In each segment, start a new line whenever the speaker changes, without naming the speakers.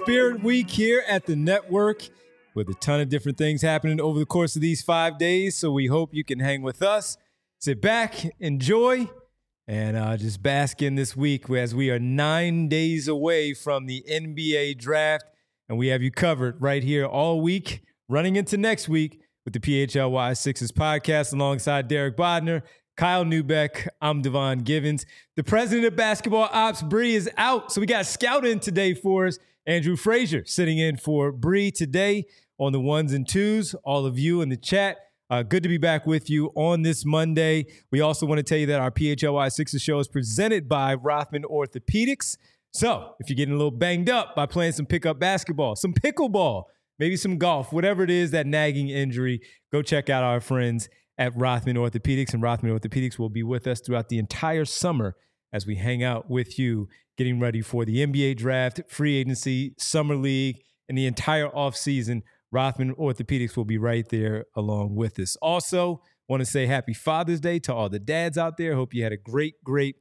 Spirit Week here at the network with a ton of different things happening over the course of these 5 days. So we hope you can hang with us, sit back, enjoy, and just bask in this week as we are 9 days away from the NBA draft. And we have you covered right here all week, running into next week with the PHLY Sixers podcast alongside Derek Bodner, Kyle Neubeck. I'm Devon Givens. The president of basketball ops, Bree, is out. So we got a scout in today for us. Andrew Frazier sitting in for Bree today on the ones and twos. All of you in the chat, good to be back with you on this Monday. We also want to tell you that our PHLY Sixers show is presented by Rothman Orthopedics. So if you're getting a little banged up by playing some pickup basketball, some pickleball, maybe some golf, whatever it is, that nagging injury, go check out our friends at Rothman Orthopedics. And Rothman Orthopedics will be with us throughout the entire summer as we hang out with you, getting ready for the NBA draft, free agency, summer league, and the entire offseason. Rothman Orthopedics will be right there along with us. Also, want to say happy Father's Day to all the dads out there. Hope you had a great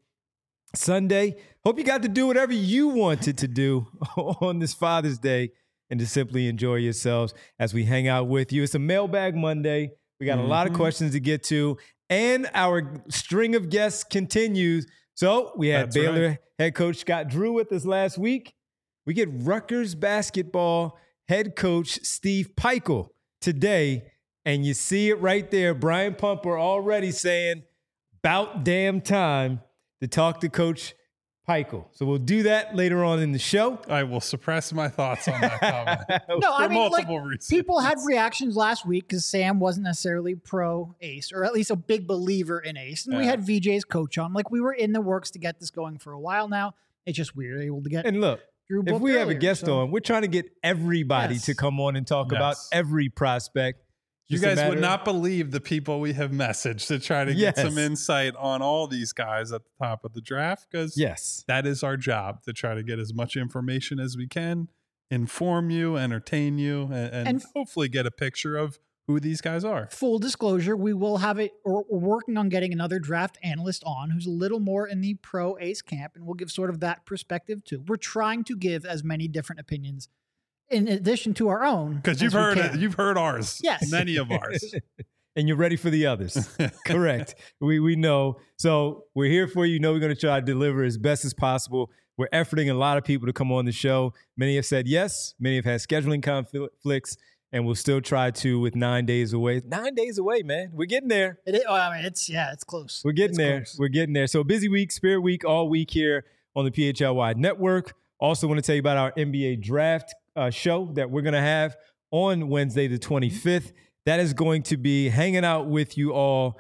Sunday. Hope you got to do whatever you wanted to do on this Father's Day and to simply enjoy yourselves as we hang out with you. It's a Mailbag Monday. We got a lot of questions to get to, and our string of guests continues. So we had Baylor head coach Scott Drew with us last week. We get Rutgers basketball head coach Steve Pikiell today, and you see it right there. Brian Pumper already saying, about damn time to talk to Coach Pikiell. So we'll do that later on in the show.
I will suppress my thoughts on that comment.
No, I mean,
multiple reasons.
People had reactions last week because Sam wasn't necessarily pro Ace, or at least a big believer in Ace. And we had VJ's coach on. Like, we were in the works to get this going for a while now. It's just weird able to get.
And look,
Drew
if we have a guest
on,
on, we're trying to get everybody to come on and talk about every prospect.
You guys would not believe the people we have messaged to try to get some insight on all these guys at the top of the draft, because that is our job, to try to get as much information as we can, inform you, entertain you, and hopefully get a picture of who these guys are.
Full disclosure, we will have it, or we're working on getting another draft analyst on who's a little more in the pro Ace camp, and we'll give sort of that perspective too. We're trying to give as many different opinions in addition to our own.
Because you've heard ours.
Yes.
Many of ours.
And you're ready for the others. Correct. We know. So we're here for you. You know we're going to try to deliver as best as possible. We're efforting a lot of people to come on the show. Many have said yes. Many have had scheduling conflicts. And we'll still try to with 9 days away. 9 days away, man. We're getting there.
It is, I mean, it's close.
We're getting there.
Close.
We're getting there. So busy week, Spirit Week, all week here on the PHLY Network. Also want to tell you about our NBA draft show that we're going to have on Wednesday, the 25th. That is going to be hanging out with you all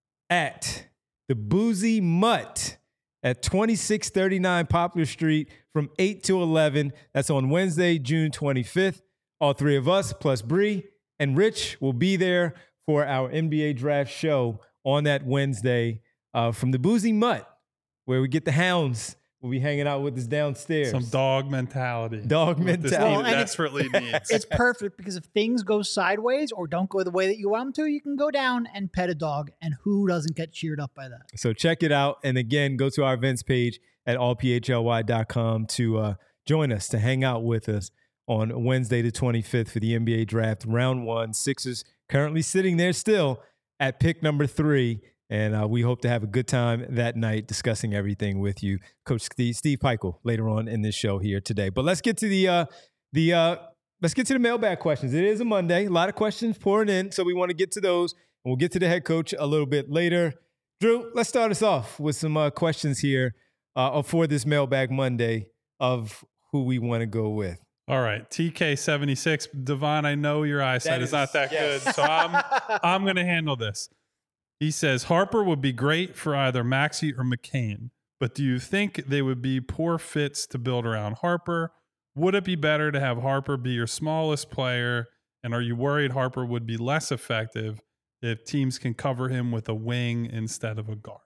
at the Boozy Mutt at 2639 Poplar Street from 8 to 11. That's on Wednesday, June 25th. All three of us, plus Bree and Rich, will be there for our NBA draft show on that Wednesday from the Boozy Mutt, where we get the hounds. We'll be hanging out with us downstairs.
Some dog mentality.
Dog mentality.
This team desperately needs.
It's perfect because if things go sideways or don't go the way that you want them to, you can go down and pet a dog, and who doesn't get cheered up by that?
So check it out. And again, go to our events page at allphly.com to join us, to hang out with us on Wednesday the 25th for the NBA draft, round one. Sixers currently sitting there still at pick number 3. And we hope to have a good time that night discussing everything with you, Coach Steve Pikiell, later on in this show here today. But let's get to the mailbag questions. It is a Monday, a lot of questions pouring in, so we want to get to those, and we'll get to the head coach a little bit later. Drew, let's start us off with some questions here for this Mailbag Monday of who we want to go with.
All right, TK76, Devon, I know your eyesight is not that good, so I'm going to handle this. He says, Harper would be great for either Maxey or McCain, but do you think they would be poor fits to build around Harper? Would it be better to have Harper be your smallest player, and are you worried Harper would be less effective if teams can cover him with a wing instead of a guard?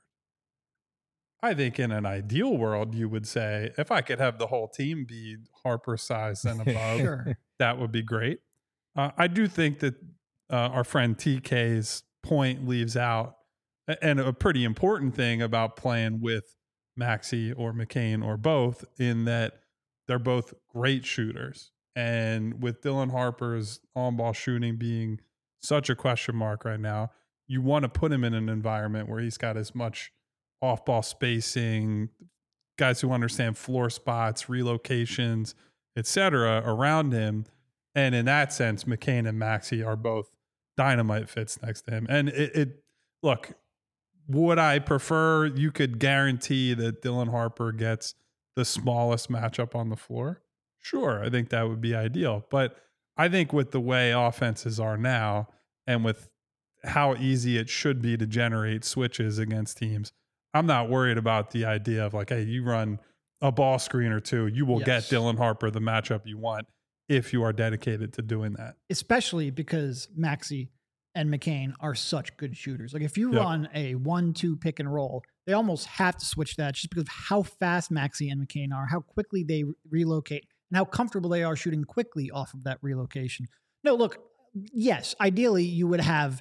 I think in an ideal world, you would say, if I could have the whole team be Harper size and above, that would be great. I do think that our friend TK's point leaves out, and a pretty important thing about playing with Maxey or McCain or both, in that they're both great shooters. And with Dylan Harper's on-ball shooting being such a question mark right now, you want to put him in an environment where he's got as much off-ball spacing, guys who understand floor spots, relocations, etc. around him. And in that sense, McCain and Maxey are both dynamite fits next to him. And look, would I prefer you could guarantee that Dylan Harper gets the smallest matchup on the floor? Sure, I think that would be ideal. But I think with the way offenses are now and with how easy it should be to generate switches against teams, I'm not worried about the idea of like, hey, you run a ball screen or two, you will get Dylan Harper the matchup you want if you are dedicated to doing that.
Especially because Maxey and McCain are such good shooters. Like if you run a 1-2 pick and roll, they almost have to switch that just because of how fast Maxey and McCain are, how quickly they relocate, and how comfortable they are shooting quickly off of that relocation. No, look, yes, ideally you would have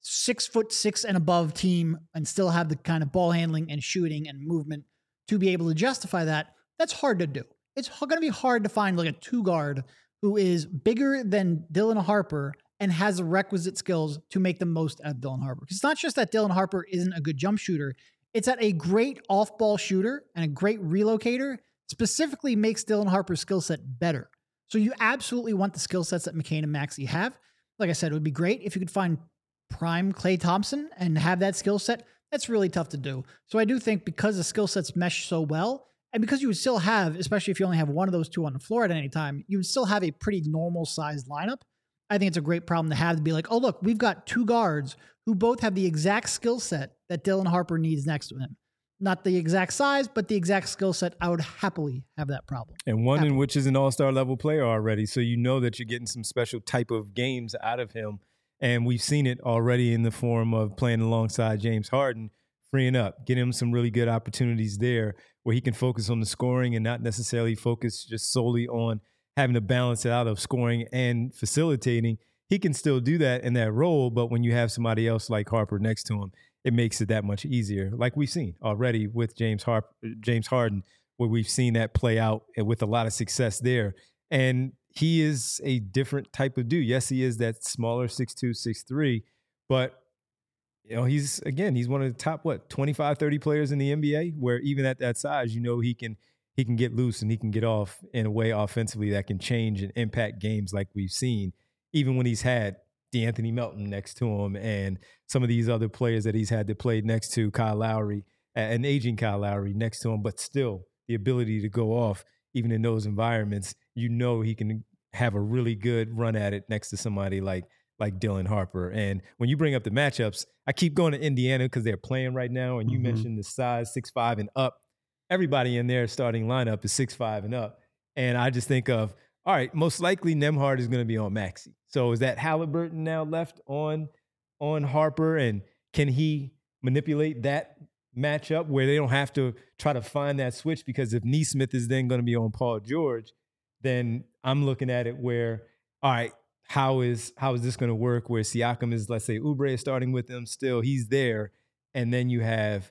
6'6" and above team and still have the kind of ball handling and shooting and movement to be able to justify that. That's hard to do. It's going to be hard to find like a 2-guard who is bigger than Dylan Harper and has the requisite skills to make the most out of Dylan Harper. Because it's not just that Dylan Harper isn't a good jump shooter. It's that a great off-ball shooter and a great relocator specifically makes Dylan Harper's skill set better. So you absolutely want the skill sets that McCain and Maxey have. Like I said, it would be great if you could find prime Klay Thompson and have that skill set. That's really tough to do. So I do think because the skill sets mesh so well, and because you would still have, especially if you only have one of those two on the floor at any time, you would still have a pretty normal sized lineup. I think it's a great problem to have, to be like, oh, look, we've got 2 guards who both have the exact skill set that Dylan Harper needs next to him. Not the exact size, but the exact skill set. I would happily have that problem.
And one in which is an all-star level player already. So you know that you're getting some special type of games out of him. And we've seen it already in the form of playing alongside James Harden, freeing up, getting him some really good opportunities there where he can focus on the scoring and not necessarily focus just solely on having to balance it out of scoring and facilitating. He can still do that in that role, but when you have somebody else like Harper next to him, it makes it that much easier. Like we've seen already with James Harden, where we've seen that play out with a lot of success there. And he is a different type of dude. Yes, he is that smaller 6'2", 6'3", but you know, he's one of the top 25, 30 players in the NBA, where even at that size, you know, he can get loose and he can get off in a way offensively that can change and impact games like we've seen, even when he's had DeAnthony Melton next to him and some of these other players that he's had to play next to, Kyle Lowry, an aging Kyle Lowry next to him, but still the ability to go off even in those environments. You know, he can have a really good run at it next to somebody like Dylan Harper. And when you bring up the matchups, I keep going to Indiana because they're playing right now. And you mentioned the size 6'5" and up. Everybody in their starting lineup is 6'5" and up. And I just think of, all right, most likely Nembhard is going to be on Maxey. So is that Halliburton now left on Harper? And can he manipulate that matchup where they don't have to try to find that switch? Because if Nesmith is then going to be on Paul George, then I'm looking at it where, all right, how is this going to work where Siakam is, let's say Oubre is starting with them still, he's there, and then you have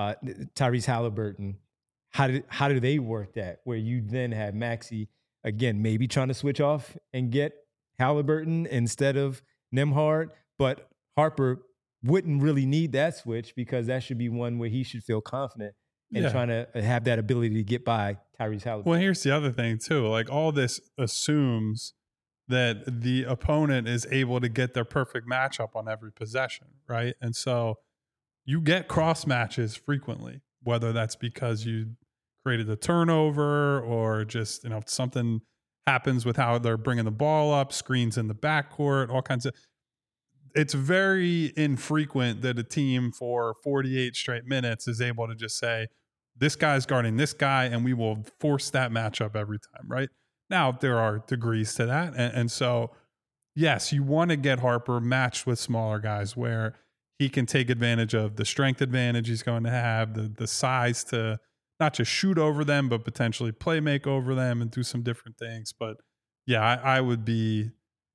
Tyrese Halliburton. How do they work that where you then have Maxey, again, maybe trying to switch off and get Halliburton instead of Nembhard, but Harper wouldn't really need that switch because that should be one where he should feel confident in trying to have that ability to get by Tyrese Halliburton.
Well, here's the other thing too. Like all this assumes that the opponent is able to get their perfect matchup on every possession, right? And so you get cross matches frequently, whether that's because you created a turnover or just, you know, something happens with how they're bringing the ball up, screens in the backcourt, all kinds of. It's very infrequent that a team for 48 straight minutes is able to just say, this guy's guarding this guy, and we will force that matchup every time, right? Now, there are degrees to that. And so, yes, you want to get Harper matched with smaller guys where he can take advantage of the strength advantage he's going to have, the size to not just shoot over them, but potentially play make over them and do some different things. But, yeah, I would be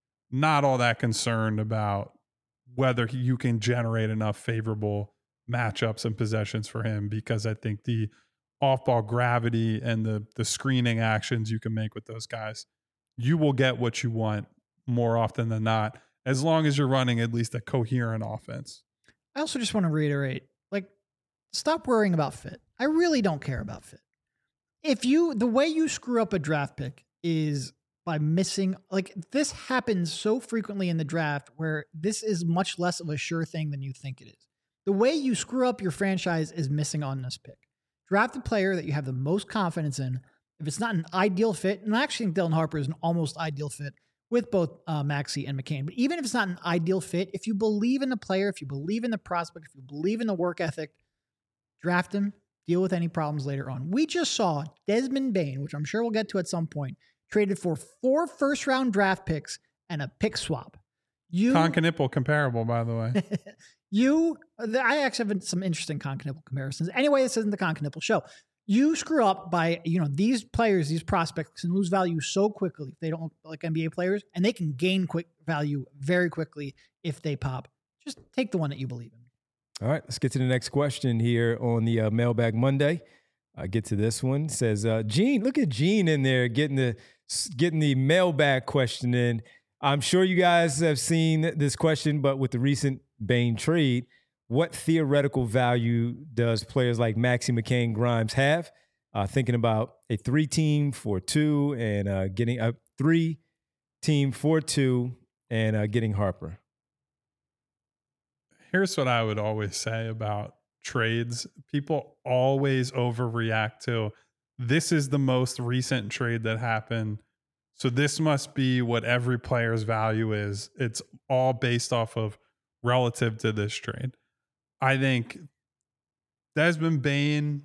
not all that concerned about whether you can generate enough favorable matchups and possessions for him, because I think the off-ball gravity and the screening actions you can make with those guys you will get what you want more often than not, as long as you're running at least a coherent offense.
I also just want to reiterate, like, stop worrying about fit. I really don't care about fit. The way you screw up a draft pick is by missing, like, this happens so frequently in the draft where this is much less of a sure thing than you think it is. The way you screw up your franchise is missing on this pick. Draft the player that you have the most confidence in. If it's not an ideal fit, and I actually think Dylan Harper is an almost ideal fit with both Maxey and McCain, but even if it's not an ideal fit, if you believe in the player, if you believe in the prospect, if you believe in the work ethic, draft him, deal with any problems later on. We just saw Desmond Bane, which I'm sure we'll get to at some point, traded for 4 first-round draft picks and a pick swap.
Concanipple comparable, by the way.
I actually have some interesting Concanipple comparisons. Anyway, this isn't the Concanipple show. You screw up by, these players, these prospects can lose value so quickly if they don't look like NBA players, and they can gain quick value very quickly if they pop. Just take the one that you believe in.
All right, let's get to the next question here on the Mailbag Monday. Get to this one. It says, Gene, look at Gene in there getting the mailbag question in. I'm sure you guys have seen this question, but with the recent Bane trade, what theoretical value does players like Maxey, McCain, Grimes have? Thinking about a 3-team for 2 and getting a 3-team for 2 and getting Harper.
Here's what I would always say about trades. People always overreact to, this is the most recent trade that happened, so this must be what every player's value is. It's all based off of relative to this trade. I think Desmond Bane,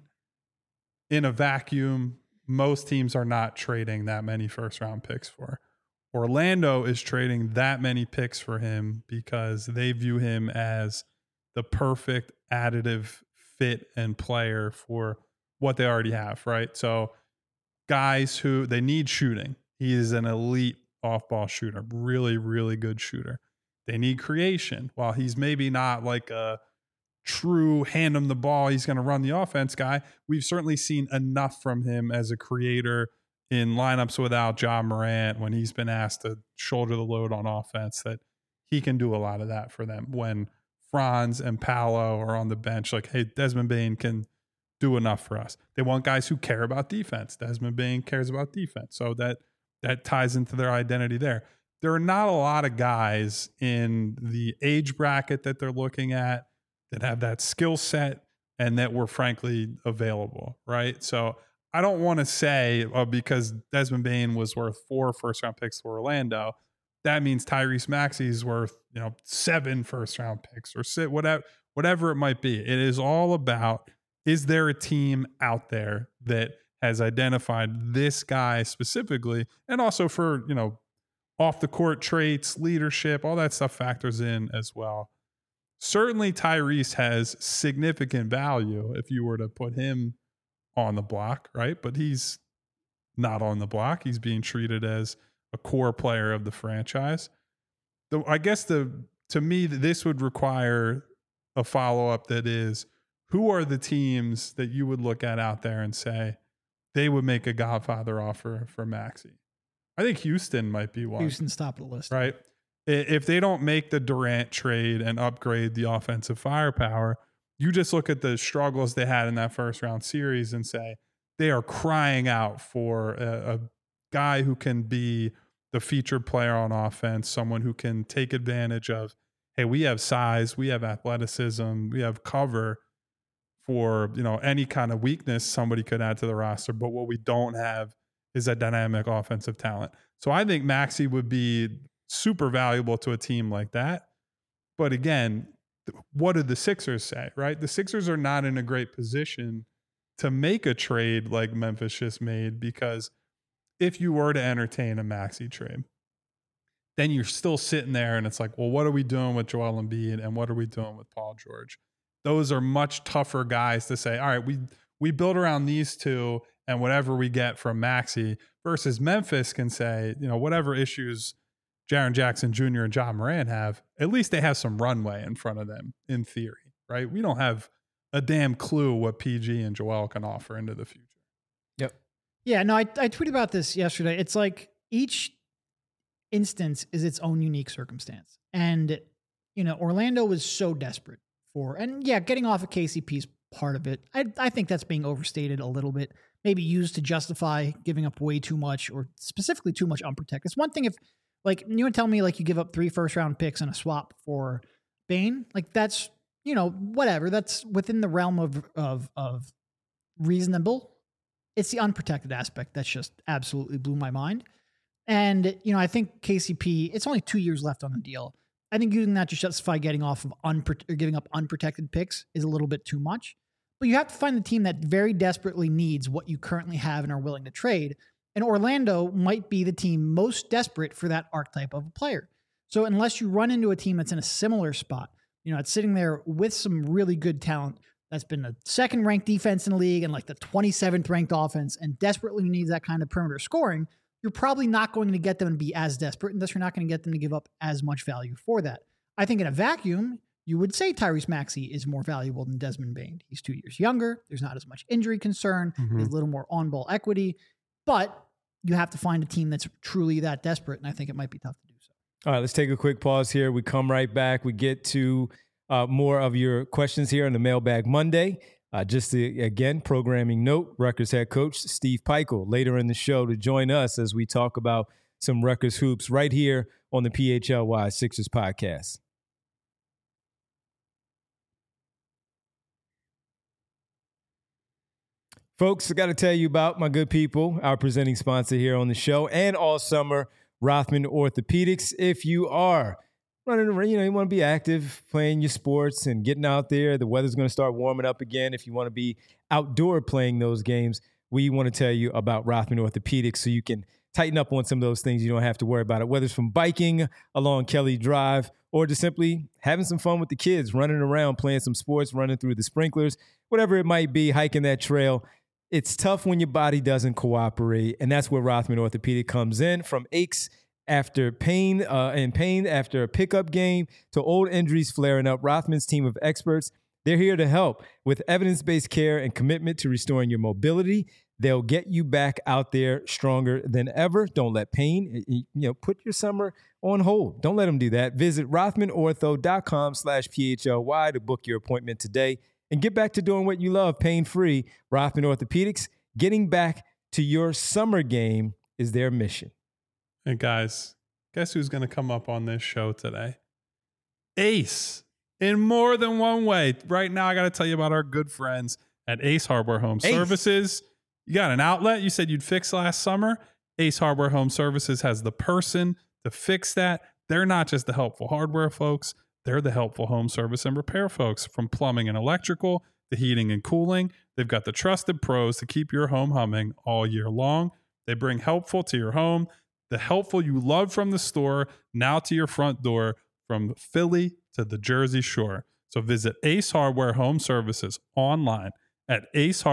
in a vacuum, most teams are not trading that many first-round picks for. Orlando is trading that many picks for him because they view him as the perfect additive fit and player for what they already have, right? So guys who, they need shooting. He is an elite off-ball shooter, really, really good shooter. They need creation. While he's maybe not like a true hand him the ball, he's going to run the offense guy, we've certainly seen enough from him as a creator in lineups without Ja Morant when he's been asked to shoulder the load on offense that he can do a lot of that for them. When Franz and Paolo are on the bench, like, hey, Desmond Bane can do enough for us. They want guys who care about defense. Desmond Bane cares about defense. So that ties into their identity there. There are not a lot of guys in the age bracket that they're looking at that have that skill set and that were frankly available, right? So I don't want to say because Desmond Bane was worth 4 first-round picks for Orlando, that means Tyrese Maxey is worth 7 first-round picks or whatever it might be. It is all about, is there a team out there that has identified this guy specifically, and also for off the court traits, leadership, all that stuff factors in as well. Certainly Tyrese has significant value if you were to put him on the block, right? But he's not on the block. He's being treated as a core player of the franchise. I guess to me, this would require a follow-up that is, who are the teams that you would look at out there and say they would make a Godfather offer for Maxey? I think Houston might be one.
Houston's top of the list.
Right? If they don't make the Durant trade and upgrade the offensive firepower, you just look at the struggles they had in that first round series and say they are crying out for a guy who can be the featured player on offense, someone who can take advantage of, hey, we have size, we have athleticism, we have cover for any kind of weakness somebody could add to the roster. But what we don't have is a dynamic offensive talent. So I think Maxey would be super valuable to a team like that. But again, what did the Sixers say, right? The Sixers are not in a great position to make a trade like Memphis just made, because if you were to entertain a Maxey trade, then you're still sitting there and it's like, well, what are we doing with Joel Embiid and what are we doing with Paul George? Those are much tougher guys to say, all right, we build around these two and whatever we get from Maxey, versus Memphis can say, whatever issues Jaren Jackson Jr. and Ja Morant have, at least they have some runway in front of them in theory, right? We don't have a damn clue what PG and Joel can offer into the future.
Yep.
Yeah, no, I tweeted about this yesterday. It's like each instance is its own unique circumstance. And, Orlando was so desperate getting off of KCP is part of it. I think that's being overstated a little bit, maybe used to justify giving up way too much or specifically too much unprotected. It's one thing if, you would tell me you give up 3 first-round picks and a swap for Bane, that's, whatever. That's within the realm of reasonable. It's the unprotected aspect that's just absolutely blew my mind. And, I think KCP, it's only 2 years left on the deal. I think using that to justify getting off of giving up unprotected picks is a little bit too much. But you have to find the team that very desperately needs what you currently have and are willing to trade. And Orlando might be the team most desperate for that archetype of a player. So unless you run into a team that's in a similar spot, it's sitting there with some really good talent that's been a second-ranked defense in the league and the 27th ranked offense and desperately needs that kind of perimeter scoring, you're probably not going to get them to be as desperate, and thus you're not going to get them to give up as much value for that. I think in a vacuum, you would say Tyrese Maxey is more valuable than Desmond Bane. He's 2 years younger. There's not as much injury concern. There's a little more on-ball equity. But you have to find a team that's truly that desperate, and I think it might be tough to do so.
All right, let's take a quick pause here. We come right back. We get to more of your questions here on the Mailbag Monday. Just again, programming note, Rutgers head coach Steve Pikiell later in the show to join us as we talk about some Rutgers hoops right here on the PHLY Sixers podcast. Folks, I got to tell you about my good people, our presenting sponsor here on the show and all summer, Rothman Orthopedics. If you are running around, you want to be active, playing your sports and getting out there. The weather's going to start warming up again. If you want to be outdoor playing those games, we want to tell you about Rothman Orthopedics so you can tighten up on some of those things. You don't have to worry about it, whether it's from biking along Kelly Drive or just simply having some fun with the kids, running around, playing some sports, running through the sprinklers, whatever it might be, hiking that trail. It's tough when your body doesn't cooperate, and that's where Rothman Orthopedic comes in. From aches after pain after a pickup game to old injuries flaring up, Rothman's team of experts, they're here to help with evidence-based care and commitment to restoring your mobility. They'll get you back out there stronger than ever. Don't let pain, put your summer on hold. Don't let them do that. Visit rothmanortho.com/PHLY to book your appointment today and get back to doing what you love, pain-free. Rothman Orthopedics, getting back to your summer game is their mission.
Hey, guys, guess who's going to come up on this show today? Ace, in more than one way. Right now, I got to tell you about our good friends at Ace Hardware Home Services. You got an outlet you said you'd fix last summer. Ace Hardware Home Services has the person to fix that. They're not just the helpful hardware folks. They're the helpful home service and repair folks. From plumbing and electrical to heating and cooling, they've got the trusted pros to keep your home humming all year long. They bring helpful to your home, the helpful you love from the store, now to your front door, from Philly to the Jersey Shore. So visit Ace Hardware Home Services online at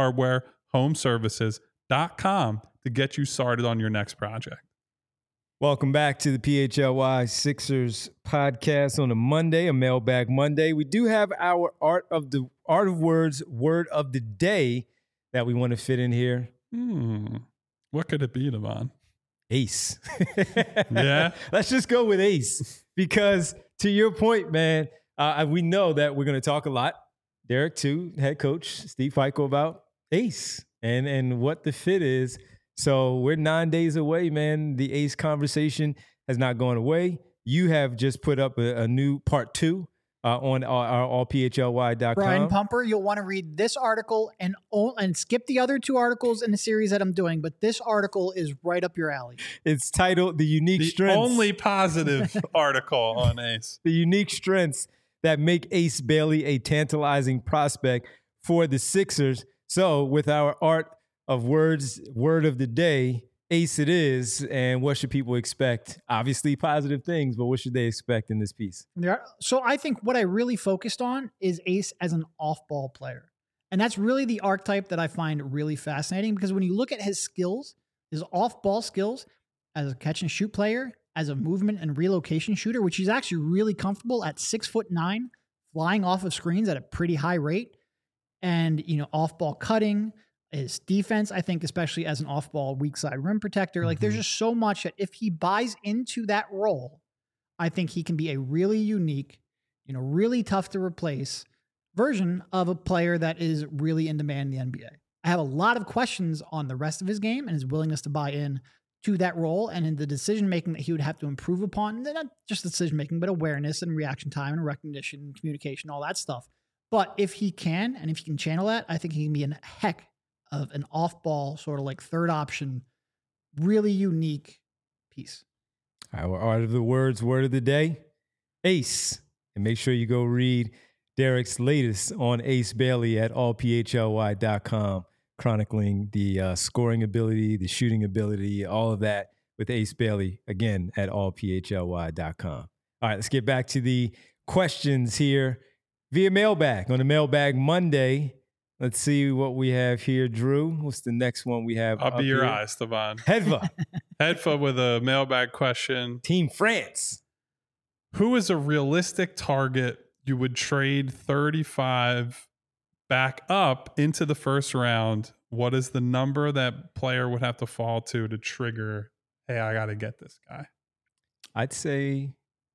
acehardwarehomeservices.com to get you started on your next project.
Welcome back to the PHLY Sixers podcast on a Monday, a Mailbag Monday. We do have our Art of Words word of the day that we want to fit in here.
What could it be, Devon?
Ace.
Yeah.
Let's just go with Ace because to your point, man, we know that we're going to talk a lot, Derek too, head coach Steve Pikiell, about Ace and what the fit is. So we're 9 days away, man. The Ace conversation has not gone away. You have just put up a new part 2 on our allphly.com.
Brian Pumper, you'll want to read this article and skip the other 2 articles in the series that I'm doing, but this article is right up your alley.
It's titled The Unique Strengths.
Only positive article on Ace.
The unique strengths that make Ace Bailey a tantalizing prospect for the Sixers. So with our Art of Words, word of the day, Ace it is. And what should people expect? Obviously positive things, but what should they expect in this piece?
So I think what I really focused on is Ace as an off-ball player. And that's really the archetype that I find really fascinating because when you look at his skills, his off-ball skills as a catch-and-shoot player, as a movement and relocation shooter, which he's actually really comfortable at 6'9", flying off of screens at a pretty high rate, and off-ball cutting, his defense, I think, especially as an off-ball weak side rim protector. Like there's just so much that if he buys into that role, I think he can be a really unique, really tough to replace version of a player that is really in demand in the NBA. I have a lot of questions on the rest of his game and his willingness to buy in to that role and in the decision-making that he would have to improve upon. And not just decision-making, but awareness and reaction time and recognition and communication, all that stuff. But if he can, and if he can channel that, I think he can be a heck of an off-ball, sort of like third option, really unique piece.
Our Art of the Words word of the day, Ace. And make sure you go read Derek's latest on Ace Bailey at allphly.com, chronicling the scoring ability, the shooting ability, all of that with Ace Bailey, again, at allphly.com. All right, let's get back to the questions here via mailbag. On the Mailbag Monday, let's see what we have here, Drew. What's the next one we have?
I'll be your eyes, Devon.
Hedva.
Hedva with a mailbag question.
Team France.
Who is a realistic target you would trade 35 back up into the first round? What is the number that player would have to fall to trigger, hey, I got to get this guy?
I'd say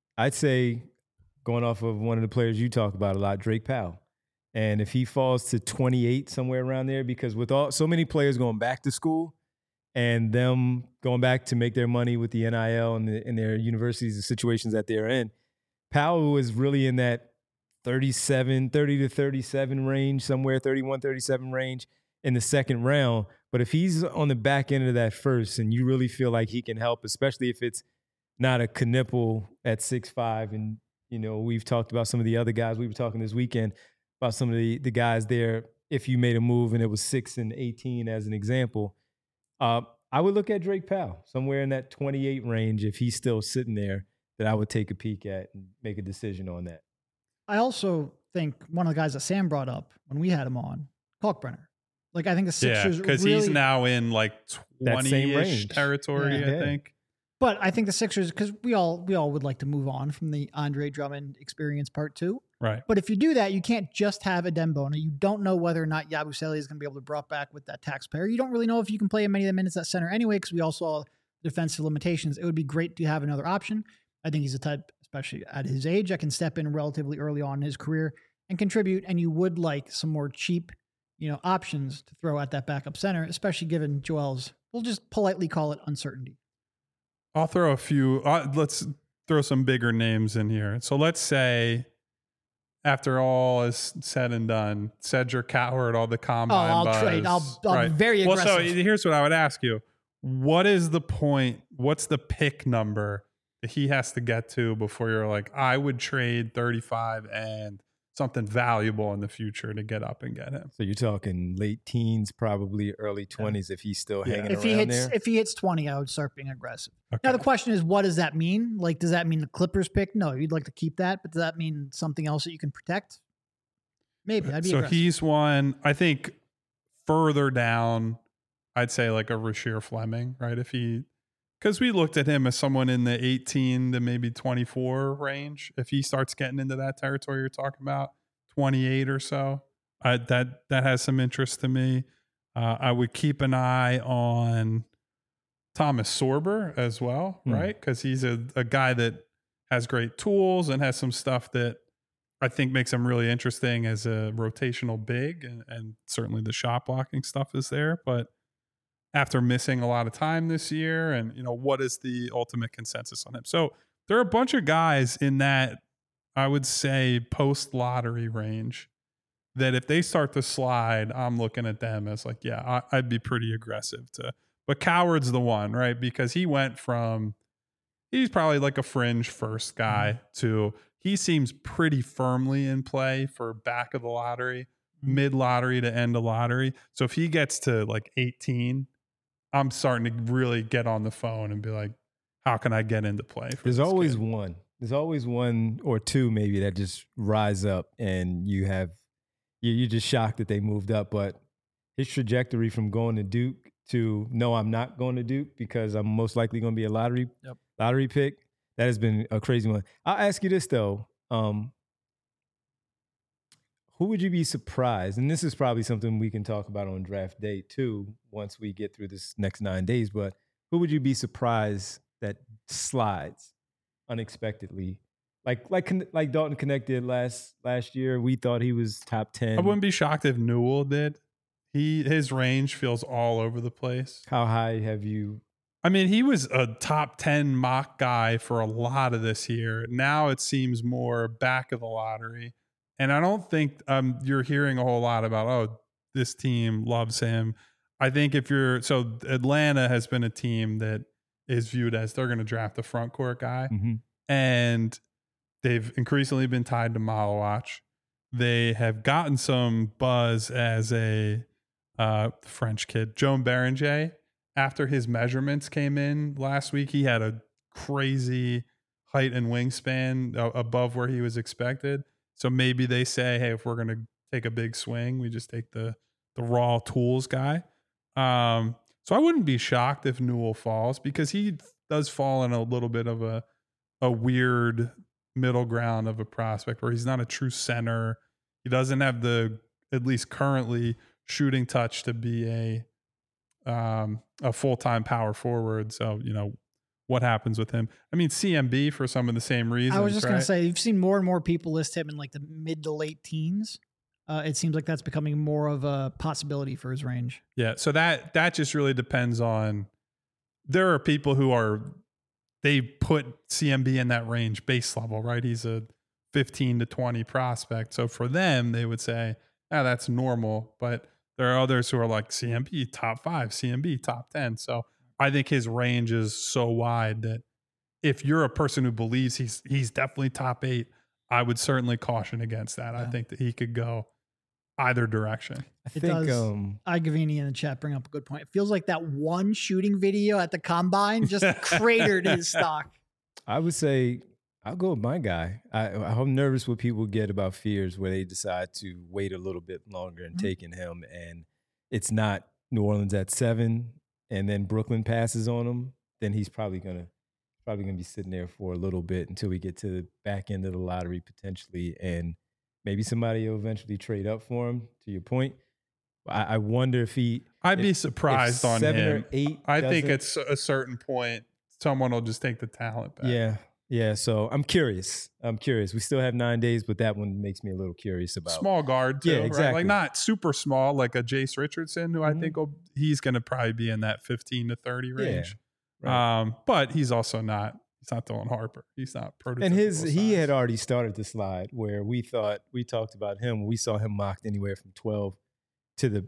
going off of one of the players you talk about a lot, Drake Powell. And if he falls to 28, somewhere around there, because with so many players going back to school and them going back to make their money with the NIL and in their universities, the situations that they're in, Powell is really in that 30 to 37 range, somewhere 31, 37 range in the second round. But if he's on the back end of that first and you really feel like he can help, especially if it's not a Knipple at 6'5", and, we've talked about some of the other guys we were talking this weekend about some of the guys there, if you made a move and it was 6 and 18 as an example, I would look at Drake Powell somewhere in that 28 range. If he's still sitting there, that I would take a peek at and make a decision on that.
I also think one of the guys that Sam brought up when we had him on, Kalkbrenner. Like I think the Sixers
because
really,
he's now in like 20-ish territory,
Yeah.
I think.
But I think the Sixers, because we all would like to move on from the Andre Drummond experience part 2.
Right.
But if you do that, you can't just have a Dembona. You don't know whether or not Yabusele is going to be able to be brought back with that taxpayer. You don't really know if you can play many of the minutes at center anyway, because we all saw defensive limitations. It would be great to have another option. I think he's a type, especially at his age, that can step in relatively early on in his career and contribute. And you would like some more cheap, options to throw at that backup center, especially given Joel's, we'll just politely call it uncertainty.
I'll throw a few. Let's throw some bigger names in here. So let's say, after all is said and done, Cedric Coward, all the combine
I'll
buzz.
trade. I'll be very aggressive.
Well, so here's what I would ask you. What is the point? What's the pick number that he has to get to before you're like, I would trade 35 and something valuable in the future to get up and get him?
So you're talking late teens, probably early 20s if he's still hanging around there?
If he hits 20, I would start being aggressive.
Okay.
Now, the question is, what does that mean? Like, does that mean the Clippers pick? No, you'd like to keep that, but does that mean something else that you can protect? Maybe. I'd be aggressive.
He's one, I think, further down, I'd say like a Rasheer Fleming, right? Because we looked at him as someone in the 18 to maybe 24 range. If he starts getting into that territory you're talking about, 28 or so, that has some interest to me. I would keep an eye on Thomas Sorber as well, right? Because he's a guy that has great tools and has some stuff that I think makes him really interesting as a rotational big, and certainly the shot blocking stuff is there. But after missing a lot of time this year, and what is the ultimate consensus on him? So there are a bunch of guys in that, I would say, post-lottery range that if they start to slide, I'm looking at them as like, yeah, I'd be pretty aggressive to. But Coward's the one, right? Because he went from, he's probably like a fringe first guy to he seems pretty firmly in play for back of the lottery, mid-lottery to end of lottery. So if he gets to like 18, I'm starting to really get on the phone and be like, how can I get into play?
There's always one. There's always one or two maybe that just rise up and you're just shocked that they moved up. But his trajectory from going to Duke to no, I'm not going to Duke because I'm most likely going to be a lottery pick, that has been a crazy one. I'll ask you this though. Who would you be surprised? And this is probably something we can talk about on draft day too, once we get through this next 9 days. But who would you be surprised that slides unexpectedly? Like Dalton Knecht did last year. We thought he was top 10.
I wouldn't be shocked if Newell did. His range feels all over the place.
How high have you?
I mean, he was a top 10 mock guy for a lot of this year. Now it seems more back of the lottery. And I don't think you're hearing a whole lot about, oh, this team loves him. I think so Atlanta has been a team that is viewed as they're going to draft a front court guy.
Mm-hmm.
And they've increasingly been tied to Malawach. They have gotten some buzz as a French kid, Joan Berenger. After his measurements came in last week, he had a crazy height and wingspan above where he was expected. So maybe they say, hey, if we're going to take a big swing, we just take the raw tools guy. So I wouldn't be shocked if Newell falls, because he does fall in a little bit of a weird middle ground of a prospect where he's not a true center. He doesn't have at least currently, shooting touch to be a full-time power forward. So, what happens with him? I mean, CMB for some of the same reasons.
I was just
right?
going to say, you've seen more and more people list him in like the mid to late teens. It seems like that's becoming more of a possibility for his range.
Yeah. So that just really depends on, there are people they put CMB in that range base level, right? He's a 15 to 20 prospect. So for them, they would say, that's normal. But there are others who are like CMB top 5, CMB top 10. So I think his range is so wide that if you're a person who believes he's definitely top 8, I would certainly caution against that. Yeah. I think that he could go either direction.
Igavini in the chat bring up a good point. It feels like that one shooting video at the combine just cratered his stock.
I would say I'll go with my guy. I'm nervous what people get about Fears where they decide to wait a little bit longer and taking him, and it's not New Orleans at 7 and then Brooklyn passes on him. Then he's probably gonna be sitting there for a little bit until we get to the back end of the lottery potentially, and maybe somebody will eventually trade up for him. To your point, I wonder if
I'd be surprised on
7
him.
or 8.
I think at a certain point, someone will just take the talent back.
Yeah. So I'm curious. We still have 9 days, but that one makes me a little curious about
small guard too.
Yeah, exactly.
Right? Like not super small, like a Jace Richardson, who I think he's going to probably be in that 15 to 30 range. Yeah, right. But he's also not. He's not Dylan Harper. He's not prototypical.
And
size.
He had already started to slide where we talked about him. We saw him mocked anywhere from 12 to the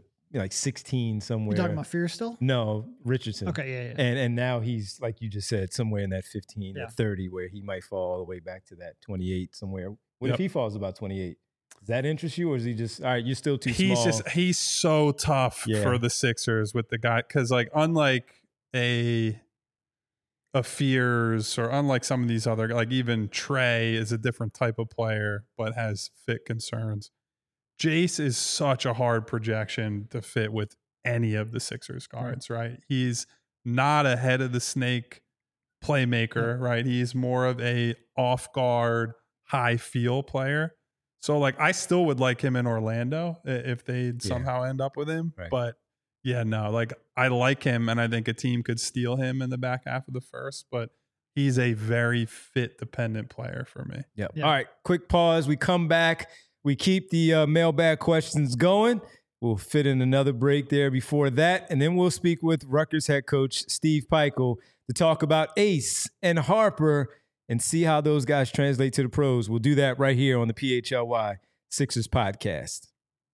16 somewhere.
You talking about Fear still?
No, Richardson.
Okay, yeah.
And now he's, like you just said, somewhere in that 15 to 30 where he might fall all the way back to that 28 somewhere. What if he falls about 28? Does that interest you, or is he just, all right, you're still too small?
He's so tough for the Sixers with the guy, because unlike a Fears, or unlike some of these other, like even Trey is a different type of player but has fit concerns. Jace is such a hard projection to fit with any of the Sixers guards, right? He's not a head of the snake playmaker, right? He's more of a off guard, high feel player. So I still would like him in Orlando if they somehow end up with him. Right. But I like him, and I think a team could steal him in the back half of the first, but he's a very fit dependent player for me.
Yep. Yeah. All right, quick pause. We come back. We keep the mailbag questions going. We'll fit in another break there before that, and then we'll speak with Rutgers head coach Steve Pikiell to talk about Ace and Harper and see how those guys translate to the pros. We'll do that right here on the PHLY Sixers podcast.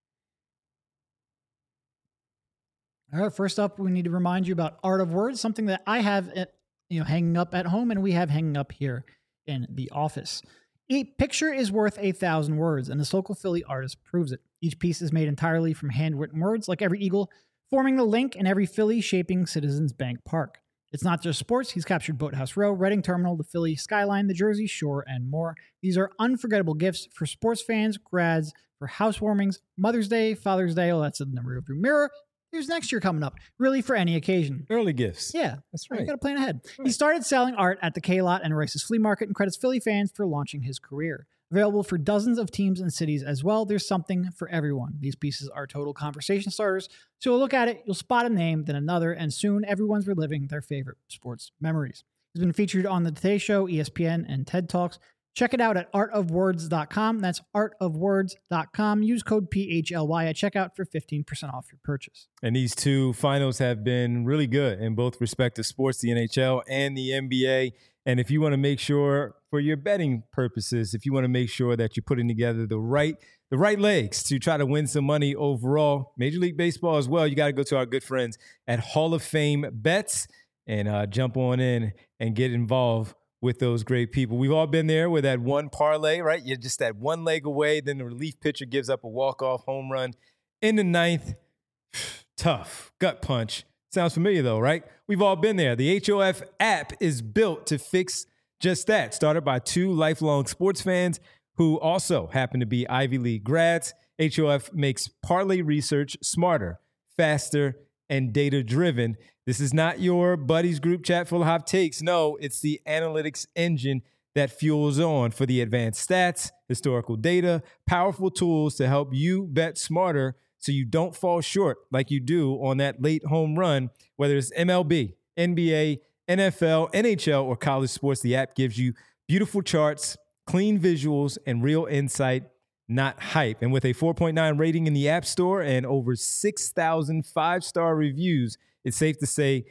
All right, first up, we need to remind you about Art of Words, something that I have hanging up at home and we have hanging up here in the office. A picture is worth 1,000 words, and this local Philly artist proves it. Each piece is made entirely from handwritten words, like every eagle, forming the link in every Philly shaping Citizens Bank Park. It's not just sports. He's captured Boathouse Row, Reading Terminal, the Philly skyline, the Jersey Shore, and more. These are unforgettable gifts for sports fans, grads, for housewarmings, Mother's Day, Father's Day. Oh, that's in the rearview mirror. Here's next year coming up, really for any occasion.
Early gifts.
Yeah,
that's right.
You got to plan ahead. Right. He started selling art at the K-Lot and Rice's Flea Market and credits Philly fans for launching his career. Available for dozens of teams and cities as well. There's something for everyone. These pieces are total conversation starters. So you'll look at it, you'll spot a name, then another, and soon everyone's reliving their favorite sports memories. It's been featured on The Today Show, ESPN, and TED Talks. Check it out at artofwords.com. That's artofwords.com. Use code PHLY at checkout for 15% off your purchase.
And these two finals have been really good in both respective sports, the NHL and the NBA. And if you want to make sure, for your betting purposes, if you want to make sure that you're putting together the right legs to try to win some money overall, Major League Baseball as well, you got to go to our good friends at Hall of Fame Bets and jump on in and get involved with those great people. We've all been there with that one parlay, right? You're just that one leg away. Then the relief pitcher gives up a walk-off home run in the ninth. Tough gut punch. Sounds familiar though, right? We've all been there. The HOF app is built to fix just that. Started by two lifelong sports fans who also happen to be Ivy League grads. HOF makes parlay research smarter, faster, and data-driven. This is not your buddy's group chat full of hot takes. No, it's the analytics engine that fuels on for the advanced stats, historical data, powerful tools to help you bet smarter so you don't fall short like you do on that late home run, whether it's MLB, NBA, NFL, NHL, or college sports. The app gives you beautiful charts, clean visuals, and real insight, not hype. And with a 4.9 rating in the App Store and over 6,000 five-star reviews, it's safe to say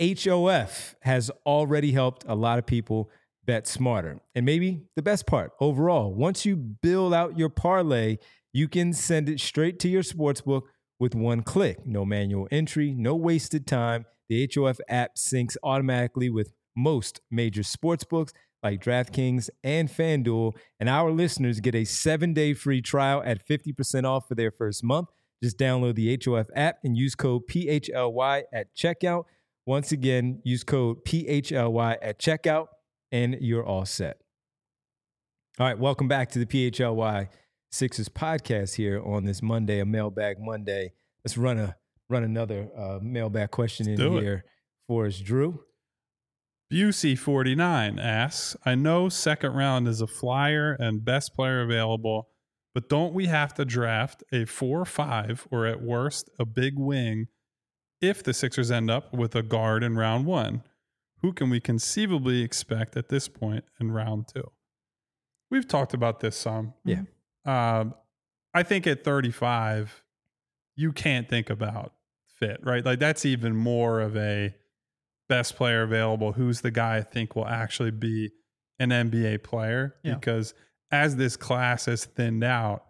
HOF has already helped a lot of people bet smarter. And maybe the best part, overall, once you build out your parlay, you can send it straight to your sportsbook with one click. No manual entry, no wasted time. The HOF app syncs automatically with most major sportsbooks like DraftKings and FanDuel. And our listeners get a 7-day free trial at 50% off for their first month. Just download the HOF app and use code PHLY at checkout. Once again, use code PHLY at checkout and you're all set. All right, welcome back to the PHLY Sixers podcast here on this Monday, a Mailbag Monday. Let's run another mailbag question in here for us, Drew.
Busey49 asks, I know second round is a flyer and best player available, but don't we have to draft a 4-5 or at worst a big wing if the Sixers end up with a guard in round 1? Who can we conceivably expect at this point in round 2? We've talked about this some.
Yeah.
I think at 35, you can't think about fit, right? Like that's even more of a best player available. Who's the guy I think will actually be an NBA player? Yeah. Because as this class has thinned out,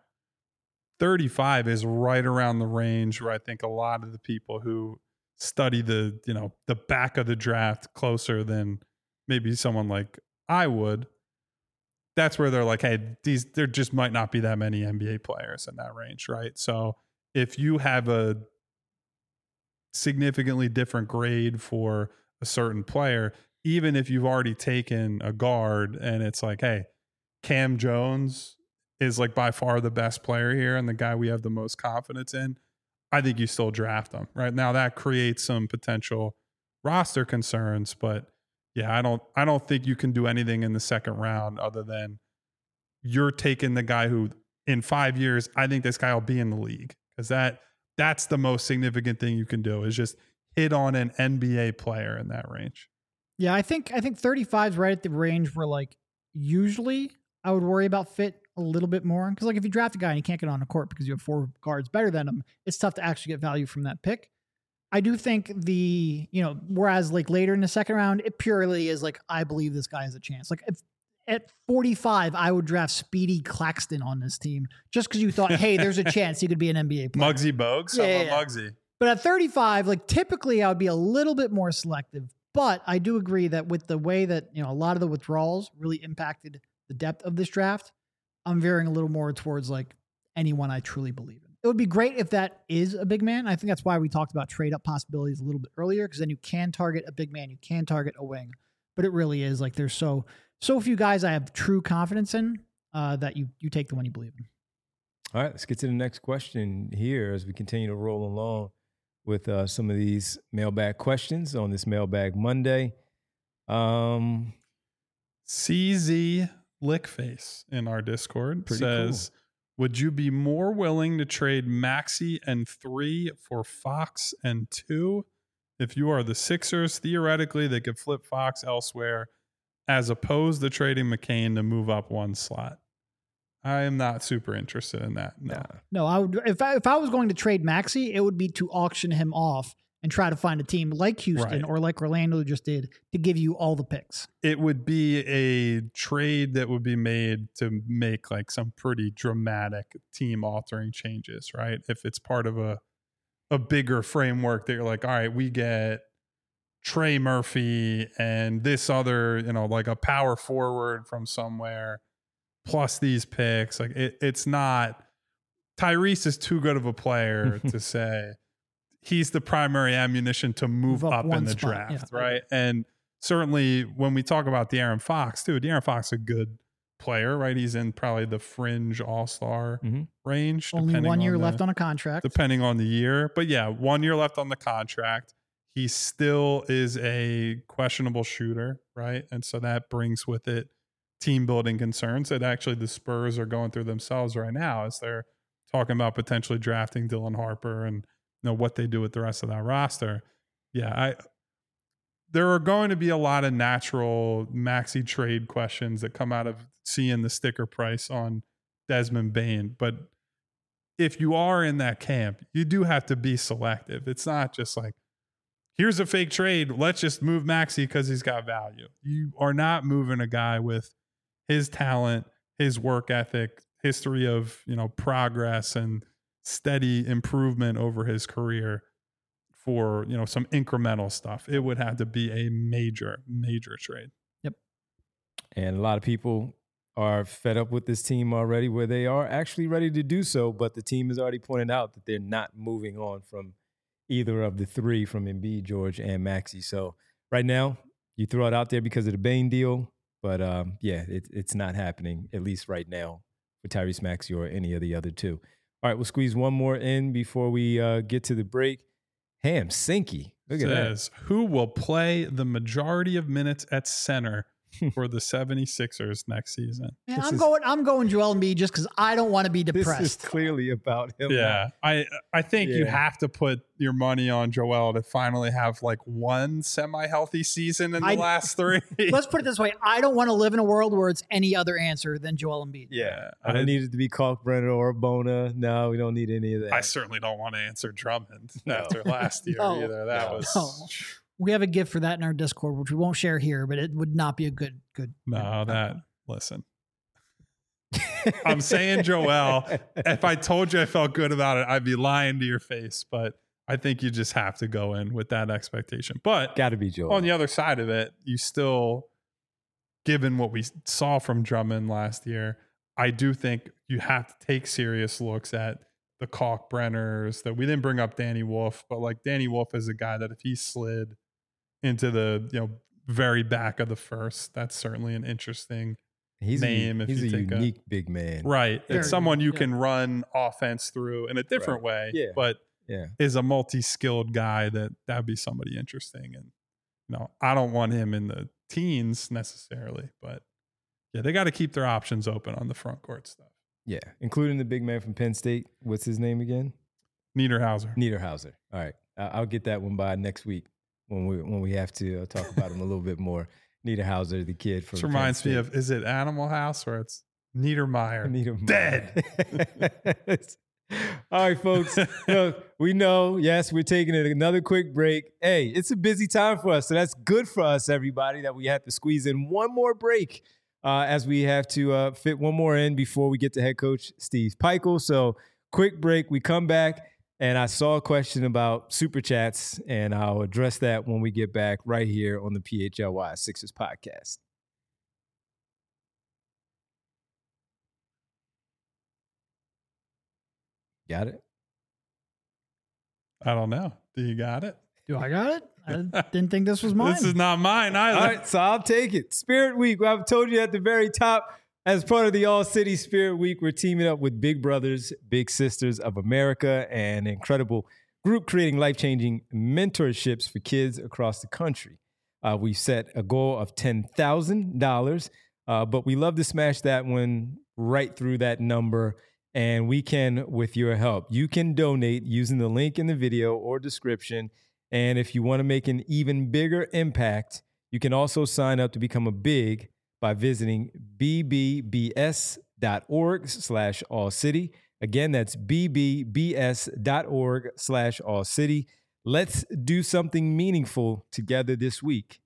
35 is right around the range where I think a lot of the people who study the back of the draft closer than maybe someone like I would, that's where they're like, hey, there just might not be that many NBA players in that range, right? So if you have a significantly different grade for a certain player, even if you've already taken a guard and it's like, hey, Cam Jones is like by far the best player here and the guy we have the most confidence in, I think you still draft him. Right now that creates some potential roster concerns, but yeah, I don't think you can do anything in the second round other than you're taking the guy who in 5 years, I think this guy will be in the league, because that's the most significant thing you can do is just hit on an NBA player in that range.
Yeah, I think 35 is right at the range where like usually I would worry about fit a little bit more, because like if you draft a guy and you can't get on the court because you have 4 guards better than him, it's tough to actually get value from that pick. I do think whereas like later in the second round, it purely is like, I believe this guy has a chance. Like if at 45, I would draft Speedy Claxton on this team just because you thought, hey, there's a chance he could be an NBA player.
Muggsy Bogues? Yeah. Muggsy.
But at 35, like typically I would be a little bit more selective. But I do agree that with the way that, a lot of the withdrawals really impacted the depth of this draft, I'm veering a little more towards like anyone I truly believe in. It would be great if that is a big man. I think that's why we talked about trade up possibilities a little bit earlier, because then you can target a big man, you can target a wing. But it really is like there's so few guys I have true confidence in that you take the one you believe in.
All right, let's get to the next question here as we continue to roll along with some of these mailbag questions on this Mailbag Monday.
CZ Lickface in our Discord
Pretty
says, would you be more willing to trade Maxey and 3 for Fox and 2? If you are the Sixers, theoretically, they could flip Fox elsewhere as opposed to trading McCain to move up one slot. I am not super interested in that.
No, I would. If I was going to trade Maxey, it would be to auction him off and try to find a team like Houston or like Orlando just did to give you all the picks.
It would be a trade that would be made to make like some pretty dramatic team altering changes, right? If it's part of a bigger framework that you're like, all right, we get Trey Murphy and this other, like a power forward from somewhere plus these picks. Like it's not, Tyrese is too good of a player to say he's the primary ammunition to move up in the draft, right? And certainly when we talk about De'Aaron Fox, too, De'Aaron Fox is a good player, right? He's in probably the fringe all-star range.
Only 1 year left on a contract.
Depending on the year. But yeah, 1 year left on the contract. He still is a questionable shooter, right? And so that brings with it team building concerns that actually the Spurs are going through themselves right now as they're talking about potentially drafting Dylan Harper and what they do with the rest of that roster. Yeah, there are going to be a lot of natural Maxey trade questions that come out of seeing the sticker price on Desmond Bane. But if you are in that camp, you do have to be selective. It's not just like, here's a fake trade, let's just move Maxey because he's got value. You are not moving a guy with his talent, his work ethic, history of, progress and steady improvement over his career for, some incremental stuff. It would have to be a major, major trade.
Yep.
And a lot of people are fed up with this team already where they are actually ready to do so, but the team has already pointed out that they're not moving on from either of the three, from Embiid, George, and Maxey. So right now, you throw it out there because of the Bane deal, but it's not happening, at least right now, for Tyrese Maxey or any of the other two. All right, we'll squeeze one more in before we get to the break. Ham Sinky, look at that.
Who will play the majority of minutes at center for the 76ers next season?
Yeah, I'm going Joel Embiid just because I don't want to be depressed.
This is clearly about him.
Yeah, I think you have to put your money on Joel to finally have like one semi-healthy season in the last 3.
Let's put it this way. I don't want to live in a world where it's any other answer than Joel Embiid.
Yeah. I don't need it to be Kalkbrenner or Bona. No, we don't need any of that.
I certainly don't want to answer Drummond after last year either. That was...
We have a gift for that in our Discord, which we won't share here, but it would not be a good.
Listen, I'm saying Joel, if I told you I felt good about it, I'd be lying to your face, but I think you just have to go in with that expectation. But
got to be Joel.
On the other side of it, you still, given what we saw from Drummond last year, I do think you have to take serious looks at the Kalkbrenners. That we didn't bring up Danny Wolf, but like Danny Wolf is a guy that if he slid into the very back of the first, that's certainly an interesting name.
He's a unique big man,
right? It's someone you can run offense through in a different way, but is a multi-skilled guy that'd be somebody interesting. And I don't want him in the teens necessarily, but yeah, they got to keep their options open on the front court stuff.
Yeah, including the big man from Penn State. What's his name again?
Niederhauser.
All right, I'll get that one by next week when we have to talk about him a little bit more. Niederhauser, the kid from.
This reminds me of, is it Animal House or it's Niedermeyer? Dead.
All right, folks. Look, we know. Yes, we're taking another quick break. Hey, it's a busy time for us, so that's good for us, everybody, that we have to squeeze in one more break. As we have to fit one more in before we get to head coach Steve Pikiell. So quick break. We come back, and I saw a question about Super Chats, and I'll address that when we get back right here on the PHLY Sixers podcast. Got it?
I don't know. Do you got it?
Do I got it? I didn't think this was mine.
This is not mine either.
All right, so I'll take it. Spirit Week. I've told you at the very top, as part of the All City Spirit Week, we're teaming up with Big Brothers, Big Sisters of America, an incredible group creating life-changing mentorships for kids across the country. We've set a goal of $10,000 But we love to smash that one right through that number. And we can with your help. You can donate using the link in the video or description. And if you want to make an even bigger impact, you can also sign up to become a big by visiting bbbs.org/allcity. Again, that's bbbs.org/allcity. Let's do something meaningful together this week.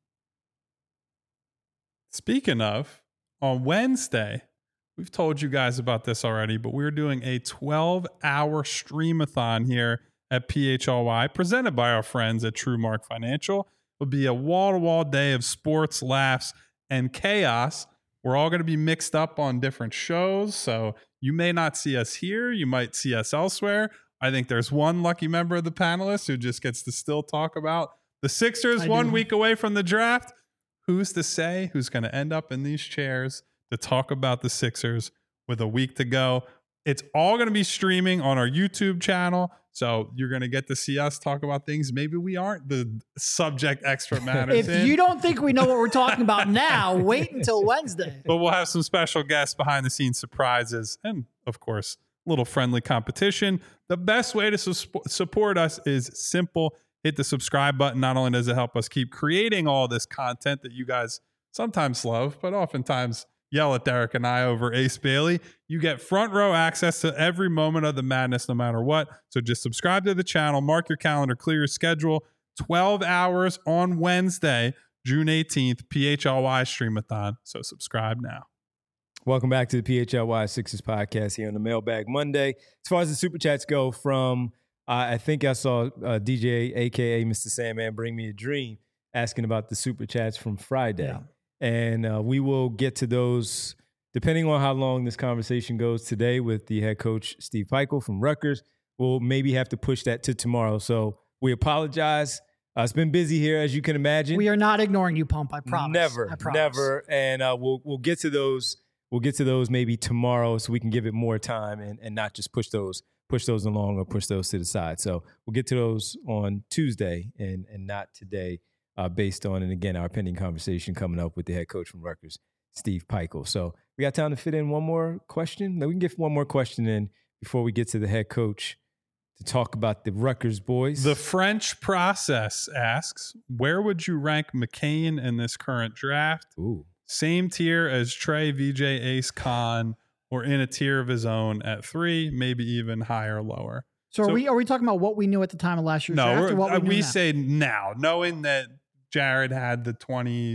Speaking of, on Wednesday, we've told you guys about this already, but we're doing a 12-hour streamathon here at PHLY, presented by our friends at TrueMark Financial. It'll be a wall-to-wall day of sports, laughs, and chaos. We're all going to be mixed up on different shows, so you may not see us here. You might see us elsewhere. I think there's one lucky member of the panelists who just gets to still talk about the Sixers 1 week away from the draft. Who's to say who's going to end up in these chairs to talk about the Sixers with a week to go? It's all going to be streaming on our YouTube channel. So you're going to get to see us talk about things maybe we aren't the subject expert matters
If you don't think we know what we're talking about now, wait until Wednesday.
But we'll have some special guests, behind the scenes surprises, and of course, a little friendly competition. The best way to support us is simple. Hit the subscribe button. Not only does it help us keep creating all this content that you guys sometimes love, but oftentimes yell at Derek and I over Ace Bailey. You get front row access to every moment of the madness, no matter what. So just subscribe to the channel, mark your calendar, clear your schedule. 12 hours on Wednesday, June 18th, PHLY Streamathon. So subscribe now.
Welcome back to the PHLY Sixers podcast here on the Mailbag Monday. As far as the Super Chats go, from I think I saw DJ, a.k.a. Mr. Sandman, Bring Me a Dream, asking about the Super Chats from Friday.
Yeah.
And we will get to those depending on how long this conversation goes today with the head coach, Steve Pikiell from Rutgers. We'll maybe have to push that to tomorrow. So we apologize. It's been busy here, as you can imagine.
We are not ignoring you, Pump. I promise.
Never. And we'll get to those. We'll get to those maybe tomorrow, so we can give it more time and not just push those along or push those to the side. So we'll get to those on Tuesday and not today. Based on, and again, our pending conversation coming up with the head coach from Rutgers, Steve Pikiell. So we got time to fit in one more question. No, we can get one more question in before we get to the head coach to talk about the Rutgers boys.
The French Process asks, where would you rank McCain in this current draft?
Ooh.
Same tier as Trey, VJ, Ace, Khan, or in a tier of his own at 3, maybe even higher or lower?
So are we talking about what we knew at the time of last year's draft? Or what
we say now, knowing that Jared had the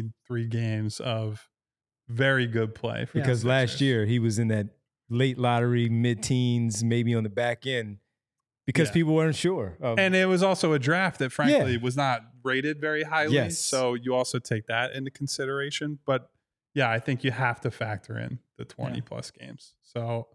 23 games of very good play.
Because last year he was in that late lottery, mid-teens, maybe on the back end, because people weren't sure.
And it was also a draft that, frankly, was not rated very highly.
Yes.
So you also take that into consideration. But, yeah, I think you have to factor in the 20-plus games. So,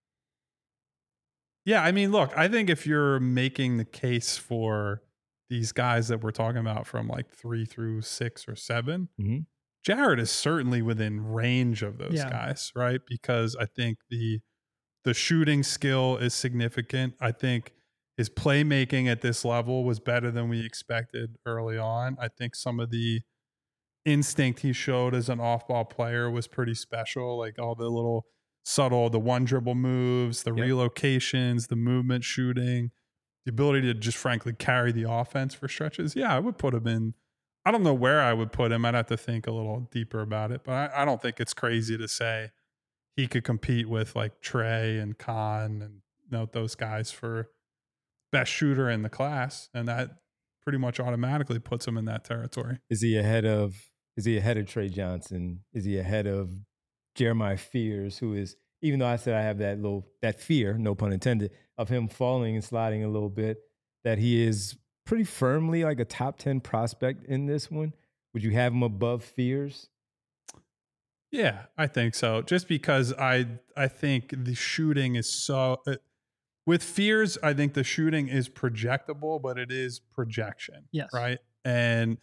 yeah, I mean, look, I think if you're making the case for these guys that we're talking about from like 3 through 6 or 7, Jared is certainly within range of those guys, right? Because I think the shooting skill is significant. I think his playmaking at this level was better than we expected early on. I think some of the instinct he showed as an off-ball player was pretty special, like all the little subtle, the one dribble moves, the relocations, the movement shooting, the ability to just frankly carry the offense for stretches. Yeah, I would put him in. I don't know where I would put him. I'd have to think a little deeper about it, but I don't think it's crazy to say he could compete with like Trey and Khan and those guys for best shooter in the class. And that pretty much automatically puts him in that territory.
Is he ahead of Trey Johnson? Is he ahead of Jeremiah Fears, who is, even though I said I have that fear, no pun intended, of him falling and sliding a little bit, that he is pretty firmly like a top 10 prospect in this one? Would you have him above Fears?
Yeah, I think so. Just because I think the shooting is so with Fears, I think the shooting is projectable, but it is projection.
Yes.
Right. And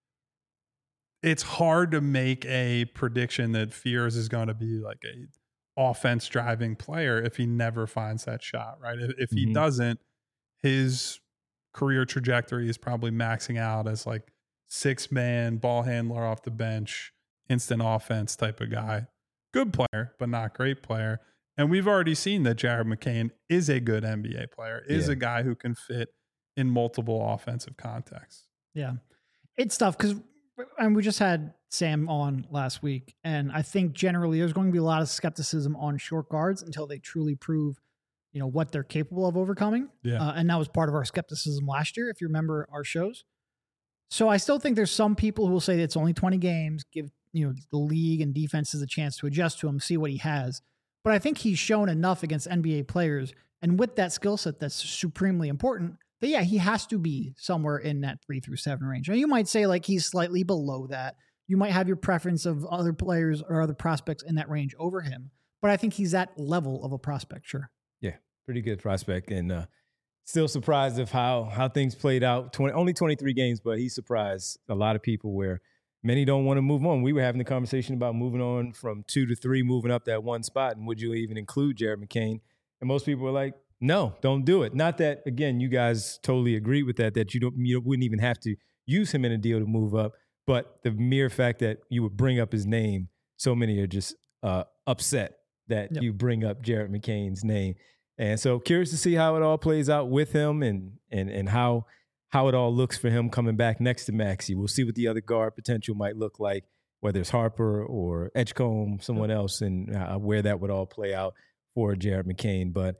it's hard to make a prediction that Fears is going to be like a offense driving player if he never finds that shot. Right. If he doesn't, his career trajectory is probably maxing out as like 6-man ball handler off the bench, instant offense type of guy. good player, but not great player. And we've already seen that Jared McCain is a good NBA player, is a guy who can fit in multiple offensive contexts.
Yeah. It's tough because we just had Sam on last week, and I think generally there's going to be a lot of skepticism on short guards until they truly prove, what they're capable of overcoming.
Yeah.
And that was part of our skepticism last year, if you remember our shows. So I still think there's some people who will say that it's only 20 games, give the league and defenses a chance to adjust to him, see what he has. But I think he's shown enough against NBA players, and with that skill set that's supremely important, that he has to be somewhere in that 3 through 7 range. Now you might say like he's slightly below that. You might have your preference of other players or other prospects in that range over him, but I think he's that level of a prospect. Sure.
Yeah, pretty good prospect, and still surprised of how things played out. Only 23 games, but he surprised a lot of people where many don't want to move on. We were having the conversation about moving on from 2 to 3, moving up that one spot, and would you even include Jared McCain? And most people were like, no, don't do it. Not that, again, you guys totally agree with that you wouldn't even have to use him in a deal to move up. But the mere fact that you would bring up his name, so many are just upset that you bring up Jared McCain's name. And so curious to see how it all plays out with him and how it all looks for him coming back next to Maxey. We'll see what the other guard potential might look like, whether it's Harper or Edgecombe, someone else, and where that would all play out for Jared McCain. But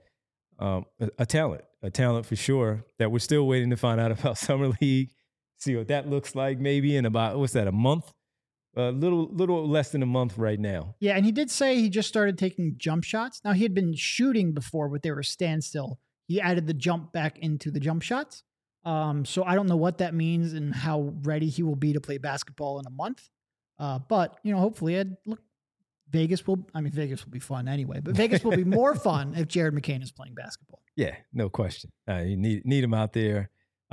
a talent for sure that we're still waiting to find out about Summer League, see what that looks like maybe in about, what's that, a month? A little less than a month right now.
Yeah, and he did say he just started taking jump shots. Now, he had been shooting before, but they were standstill. He added the jump back into the jump shots. So I don't know what that means and how ready he will be to play basketball in a month. But, hopefully, Vegas will be fun anyway, but Vegas will be more fun if Jared McCain is playing basketball.
Yeah, no question. You need him out there.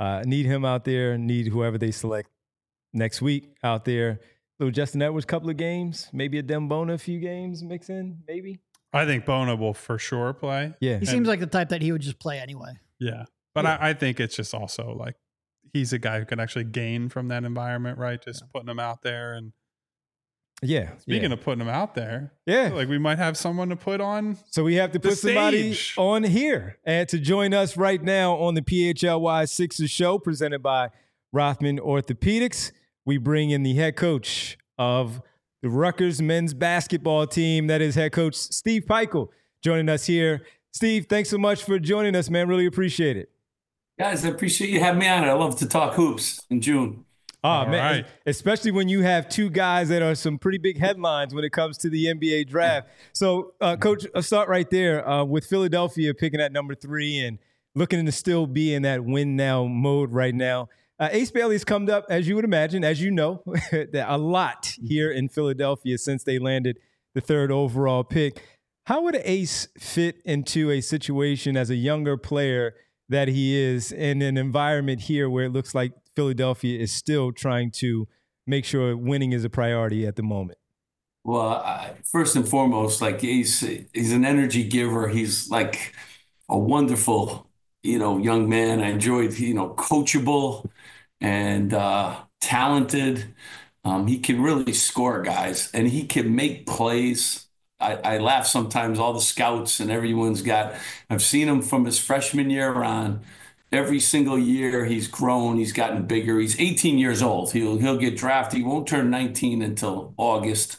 Need whoever they select next week out there. So Justin Edwards, couple of games, maybe a Dembona, a few games mix in, maybe.
I think Bona will for sure play.
Yeah,
he seems like the type that he would just play anyway.
Yeah, but I think it's just also like he's a guy who can actually gain from that environment, right? Just putting him out there and. Speaking of putting him out there, like we might have someone to put on.
So we have to put somebody on here and to join us right now on the PHLY Sixers show presented by Rothman Orthopedics. We bring in the head coach of the Rutgers men's basketball team. That is head coach Steve Pikiell joining us here. Steve, thanks so much for joining us, man. Really appreciate it.
Guys, I appreciate you having me on. I love to talk hoops in June.
Oh, man, right. Especially when you have two guys that are some pretty big headlines when it comes to the NBA draft. So, Coach, I'll start right there with Philadelphia picking at number 3 and looking to still be in that win now mode right now. Ace Bailey's come up, as you would imagine, as you know, a lot here in Philadelphia since they landed the 3rd overall pick. How would Ace fit into a situation as a younger player that he is in an environment here where it looks like Philadelphia is still trying to make sure winning is a priority at the moment?
Well, first and foremost, like he's an energy giver. He's like a wonderful, young man. I enjoyed, coachable and talented. He can really score, guys, and he can make plays. I laugh sometimes, all the scouts and I've seen him from his freshman year on. Every single year he's grown, he's gotten bigger. He's 18 years old. He'll get drafted. He won't turn 19 until August.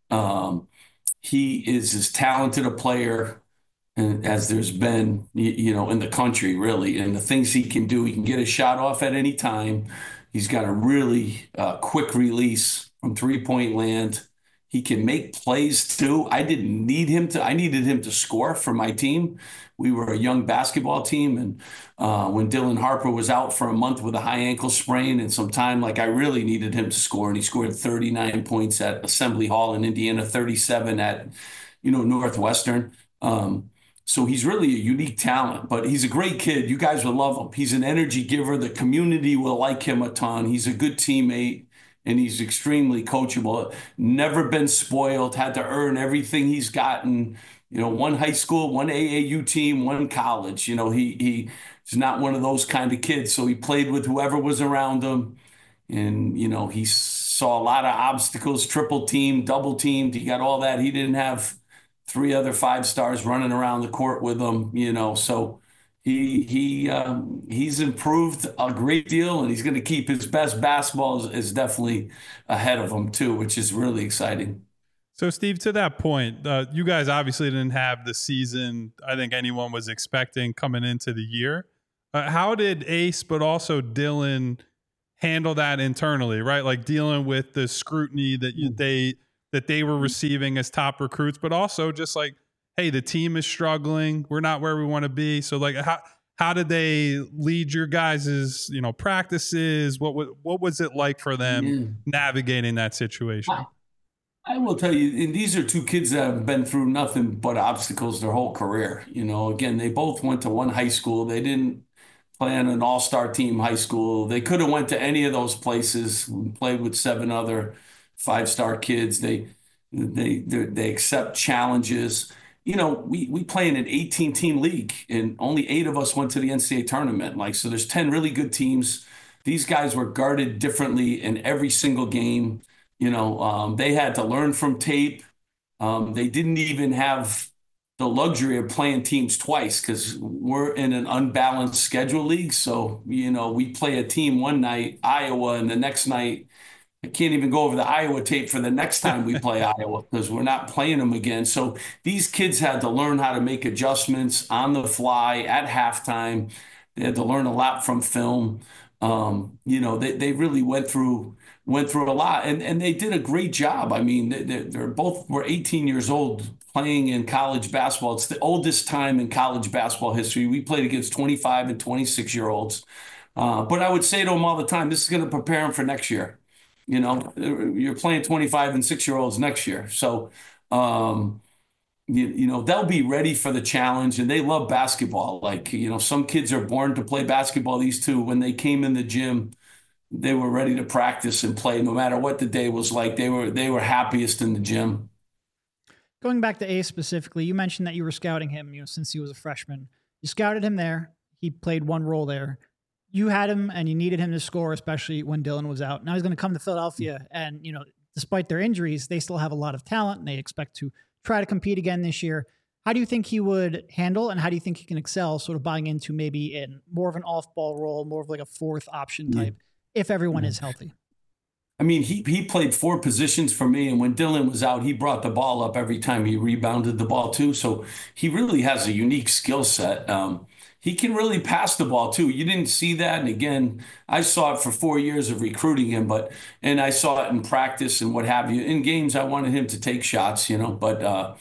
He is as talented a player as there's been, in the country, really. And the things he can do, he can get a shot off at any time. He's got a really quick release from three-point land. He can make plays too. I needed him to score for my team. We were a young basketball team. And when Dylan Harper was out for a month with a high ankle sprain and some time, I really needed him to score. And he scored 39 points at Assembly Hall in Indiana, 37 at, Northwestern. So he's really a unique talent, but he's a great kid. You guys will love him. He's an energy giver. The community will like him a ton. He's a good teammate. And he's extremely coachable, never been spoiled, had to earn everything he's gotten, one high school, one AAU team, one college. He's not one of those kind of kids. So he played with whoever was around him. And, he saw a lot of obstacles, triple teamed, double teamed. He got all that. He didn't have 3 other 5 stars running around the court with him, so he's improved a great deal, and he's going to keep his best basketball is definitely ahead of him too, which is really exciting.
So, Steve, to that point, you guys obviously didn't have the season I think anyone was expecting coming into the year. How did Ace, but also Dylan, handle that internally, right? Like dealing with the scrutiny that they were receiving as top recruits, but also just like, hey, the team is struggling. We're not where we want to be. So, like, how did they lead your guys' practices? What was it like for them navigating that situation?
I will tell you, and these are 2 kids that have been through nothing but obstacles their whole career. Again, they both went to one high school. They didn't play on an all-star team high school. They could have went to any of those places, played with 7 other 5-star kids. They accept challenges. We play in an 18-team league, and only 8 of us went to the NCAA tournament. So there's 10 really good teams. These guys were guarded differently in every single game. They had to learn from tape. They didn't even have the luxury of playing teams twice because we're in an unbalanced schedule league. So, we play a team one night, Iowa, and the next night, I can't even go over the Iowa tape for the next time we play Iowa because we're not playing them again. So these kids had to learn how to make adjustments on the fly at halftime. They had to learn a lot from film. They really went through a lot, and they did a great job. I mean, they're both were 18 years old playing in college basketball. It's the oldest time in college basketball history. We played against 25 and 26-year-olds. But I would say to them all the time, this is going to prepare them for next year. You're playing 25 and 6-year-olds next year. So, they'll be ready for the challenge, and they love basketball. Some kids are born to play basketball. These 2, when they came in the gym, they were ready to practice and play no matter what the day was like. They were happiest in the gym.
Going back to Ace specifically, you mentioned that you were scouting him, since he was a freshman. You scouted him there. He played one role there. You had him and you needed him to score, especially when Dylan was out. Now he's going to come to Philadelphia, and, despite their injuries, they still have a lot of talent, and they expect to try to compete again this year. How do you think he would handle, and how do you think he can excel sort of buying into maybe in more of an off-ball role, more of like a 4th option type, if everyone is healthy?
I mean, he played 4 positions for me, and when Dylan was out, he brought the ball up every time he rebounded the ball too. So he really has a unique skill set. He can really pass the ball too. You didn't see that, and again, I saw it for 4 years of recruiting him, and I saw it in practice and what have you. In games, I wanted him to take shots, but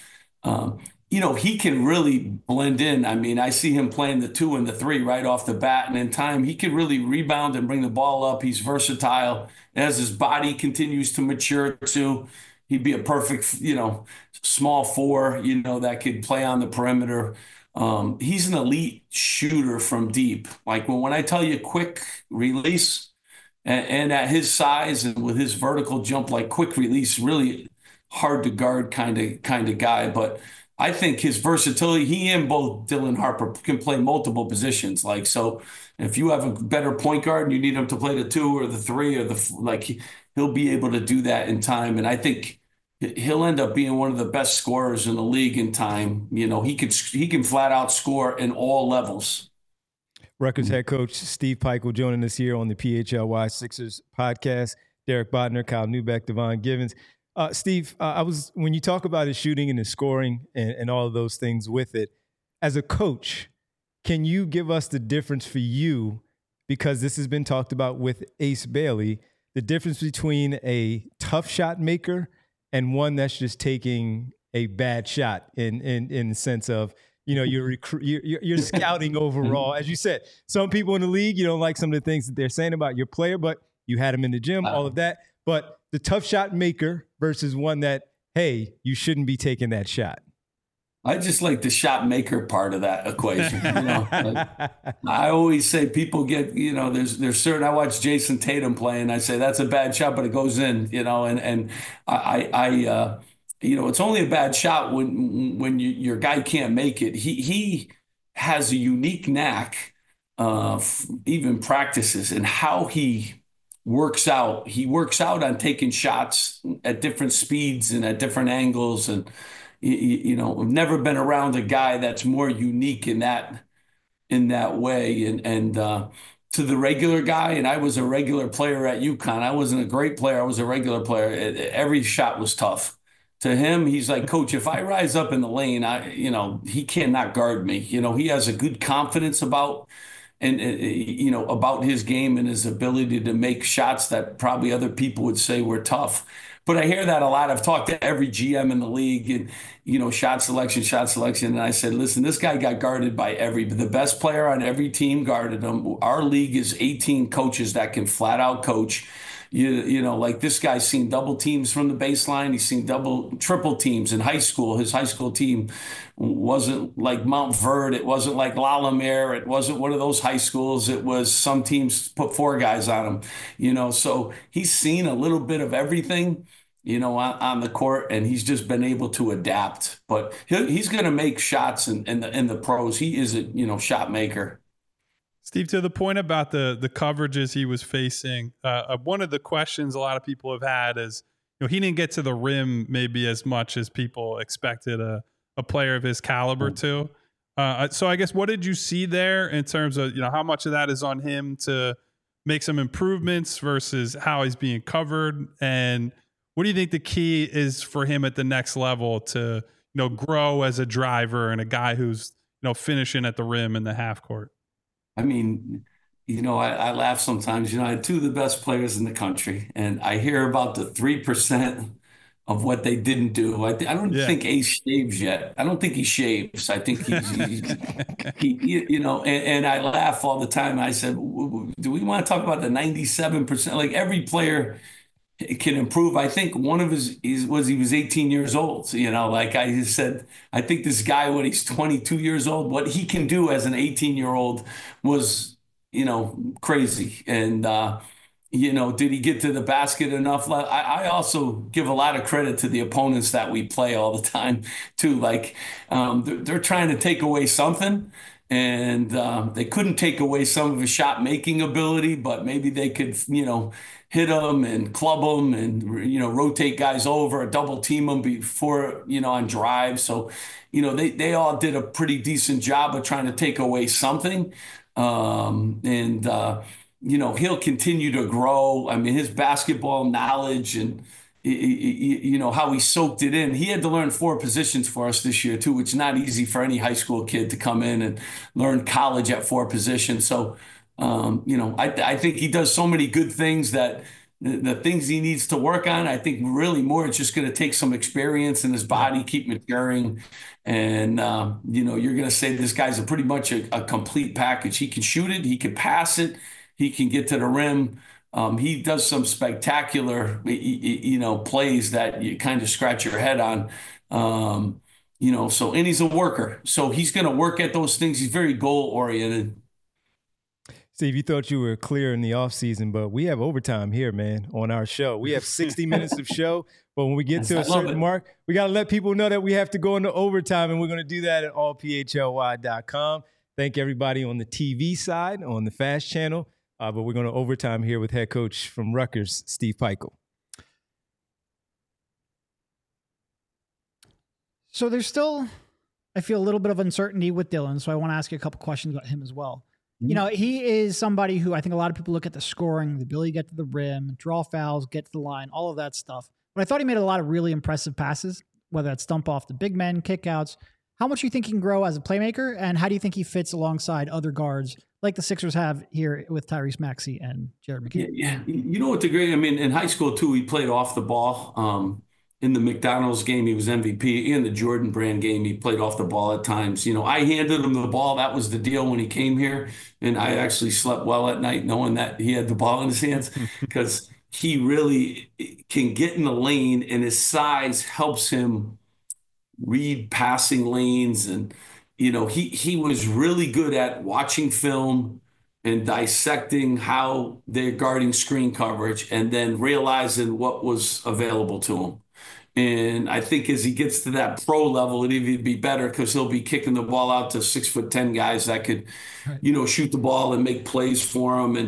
he can really blend in. I mean, I see him playing the 2 and the 3 right off the bat, and in time, he can really rebound and bring the ball up. He's versatile. As his body continues to mature too, he'd be a perfect, small 4, that could play on the perimeter. He's an elite shooter from deep. Like when I tell you quick release, and at his size and with his vertical jump, like quick release, really hard to guard kind of guy. But I think his versatility, he and both Dylan Harper can play multiple positions. So if you have a better point guard and you need him to play the 2 or the 3 or he'll be able to do that in time. And I think he'll end up being one of the best scorers in the league in time. He can flat out score in all levels.
Rutgers head coach Steve Pikiell joining us here on the PHLY Sixers podcast. Derek Bodner, Kyle Neubeck, Devon Givens. Steve, when you talk about his shooting and his scoring and all of those things with it, as a coach, can you give us the difference for you, because this has been talked about with Ace Bailey, the difference between a tough shot maker and one that's just taking a bad shot in the sense of, you're scouting overall. As you said, some people in the league, you don't like some of the things that they're saying about your player, but you had him in the gym, all of that. But the tough shot maker versus one that, hey, you shouldn't be taking that shot.
I just like the shot maker part of that equation. I always say people get, there's certain, I watch Jason Tatum play and I say, that's a bad shot, but it goes in, and it's only a bad shot when your guy can't make it. He has a unique knack, even practices, and how he works out. He works out on taking shots at different speeds and at different angles. And, you know, I've never been around a guy that's more unique in that way. And to the regular guy, and I was a regular player at UConn. I wasn't a great player. I was a regular player. Every shot was tough. To him, he's like, Coach, if I rise up in the lane, he cannot guard me. You know, he has a good confidence about about his game and his ability to make shots that probably other people would say were tough. But I hear that a lot. I've talked to every GM in the league and, shot selection. And I said, listen, this guy got guarded by the best player on every team guarded him. Our league is 18 coaches that can flat out coach. Like this guy's seen double teams from the baseline. He's seen triple teams in high school. His high school team wasn't like Mount Verde. It wasn't like Lalamere. It wasn't one of those high schools. It was some teams put 4 guys on him, so he's seen a little bit of everything, on the court, and he's just been able to adapt. But he's going to make shots in the pros. He is a, shot maker.
Steve, to the point about the coverages he was facing, one of the questions a lot of people have had is, he didn't get to the rim maybe as much as people expected a player of his caliber to. So I guess what did you see there in terms of, how much of that is on him to make some improvements versus how he's being covered? And what do you think the key is for him at the next level to, grow as a driver and a guy who's, finishing at the rim in the half court?
I mean, I laugh sometimes. I had 2 of the best players in the country, and I hear about the 3% of what they didn't do. I don't think Ace shaves yet. I don't think he shaves. I think and I laugh all the time. I said, do we want to talk about the 97%? Like every player can improve. I think one of he was 18 years old. Like I said, I think this guy, when he's 22 years old, what he can do as an 18-year-old was, crazy. And, did he get to the basket enough? I also give a lot of credit to the opponents that we play all the time too. Like they're trying to take away something. And they couldn't take away some of his shot making ability, but maybe they could, hit him and club him and, rotate guys over, double team him before, on drive. So, they all did a pretty decent job of trying to take away something. He'll continue to grow. I mean, his basketball knowledge and, how he soaked it in. He had to learn 4 positions for us this year too, which is not easy for any high school kid to come in and learn college at 4 positions. So, I think he does so many good things that the things he needs to work on, I think really more it's just going to take some experience in his body, keep maturing. And, you're going to say this guy's pretty much a complete package. He can shoot it. He can pass it. He can get to the rim. He does some spectacular, plays that you kind of scratch your head on. And he's a worker. So he's going to work at those things. He's very goal oriented.
Steve, you thought you were clear in the offseason, but we have overtime here, man, on our show. We have 60 minutes of show, but when we get to a certain mark, we got to let people know that we have to go into overtime, and we're going to do that at allphly.com. Thank everybody on the TV side, on the Fast Channel, but we're going to overtime here with head coach from Rutgers, Steve Pikiell.
So there's still, I feel, a little bit of uncertainty with Dylan, so I want to ask you a couple questions about him as well. He is somebody who I think a lot of people look at the scoring, the ability to get to the rim, draw fouls, get to the line, all of that stuff. But I thought he made a lot of really impressive passes, whether that's dump off the big men, kickouts. How much do you think he can grow as a playmaker, and how do you think he fits alongside other guards like the Sixers have here with Tyrese Maxey and Jared McCain?
Yeah. You know what the great, in high school too, he played off the ball. In the McDonald's game, he was MVP. In the Jordan Brand game, he played off the ball at times. I handed him the ball. That was the deal when he came here. And I actually slept well at night knowing that he had the ball in his hands because he really can get in the lane, and his size helps him read passing lanes. And, he was really good at watching film and dissecting how they're guarding screen coverage and then realizing what was available to him. And I think as he gets to that pro level, it'd even be better because he'll be kicking the ball out to 6'10" guys that could, shoot the ball and make plays for him.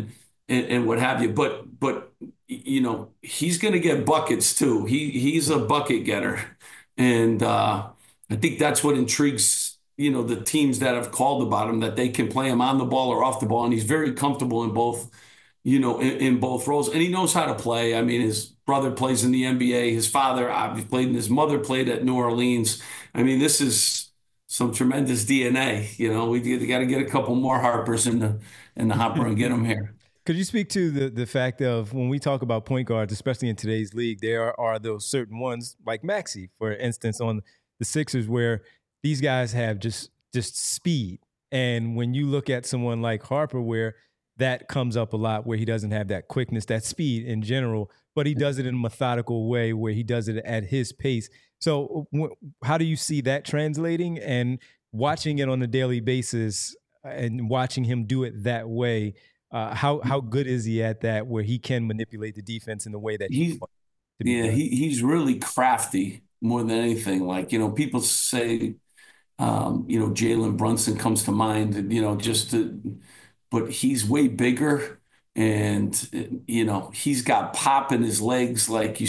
and what have you. But you know, he's going to get buckets too. He's a bucket getter, and I think that's what intrigues, you know, the teams that have called about him, that they can play him on the ball or off the ball, and he's very comfortable in both, you know, in both roles, and he knows how to play. I mean, his brother plays in the NBA. His father obviously played, and his mother played at New Orleans. I mean, this is some tremendous DNA. You know, we got to get a couple more Harpers in the hopper and get them here.
Could you speak to the fact of when we talk about point guards, especially in today's league, there are those certain ones like Maxey, for instance, on the Sixers, where these guys have just speed. And when you look at someone like Harper, where that comes up a lot, where he doesn't have that quickness, that speed in general, but he does it in a methodical way where he does it at his pace. So how do you see that translating, and watching it on a daily basis and watching him do it that way? How good is he at that, where he can manipulate the defense in the way that he wants to be done?
He's really crafty more than anything. Like, you know, people say, you know, Jalen Brunson comes to mind, and, you know, but he's way bigger, and, you know, he's got pop in his legs. Like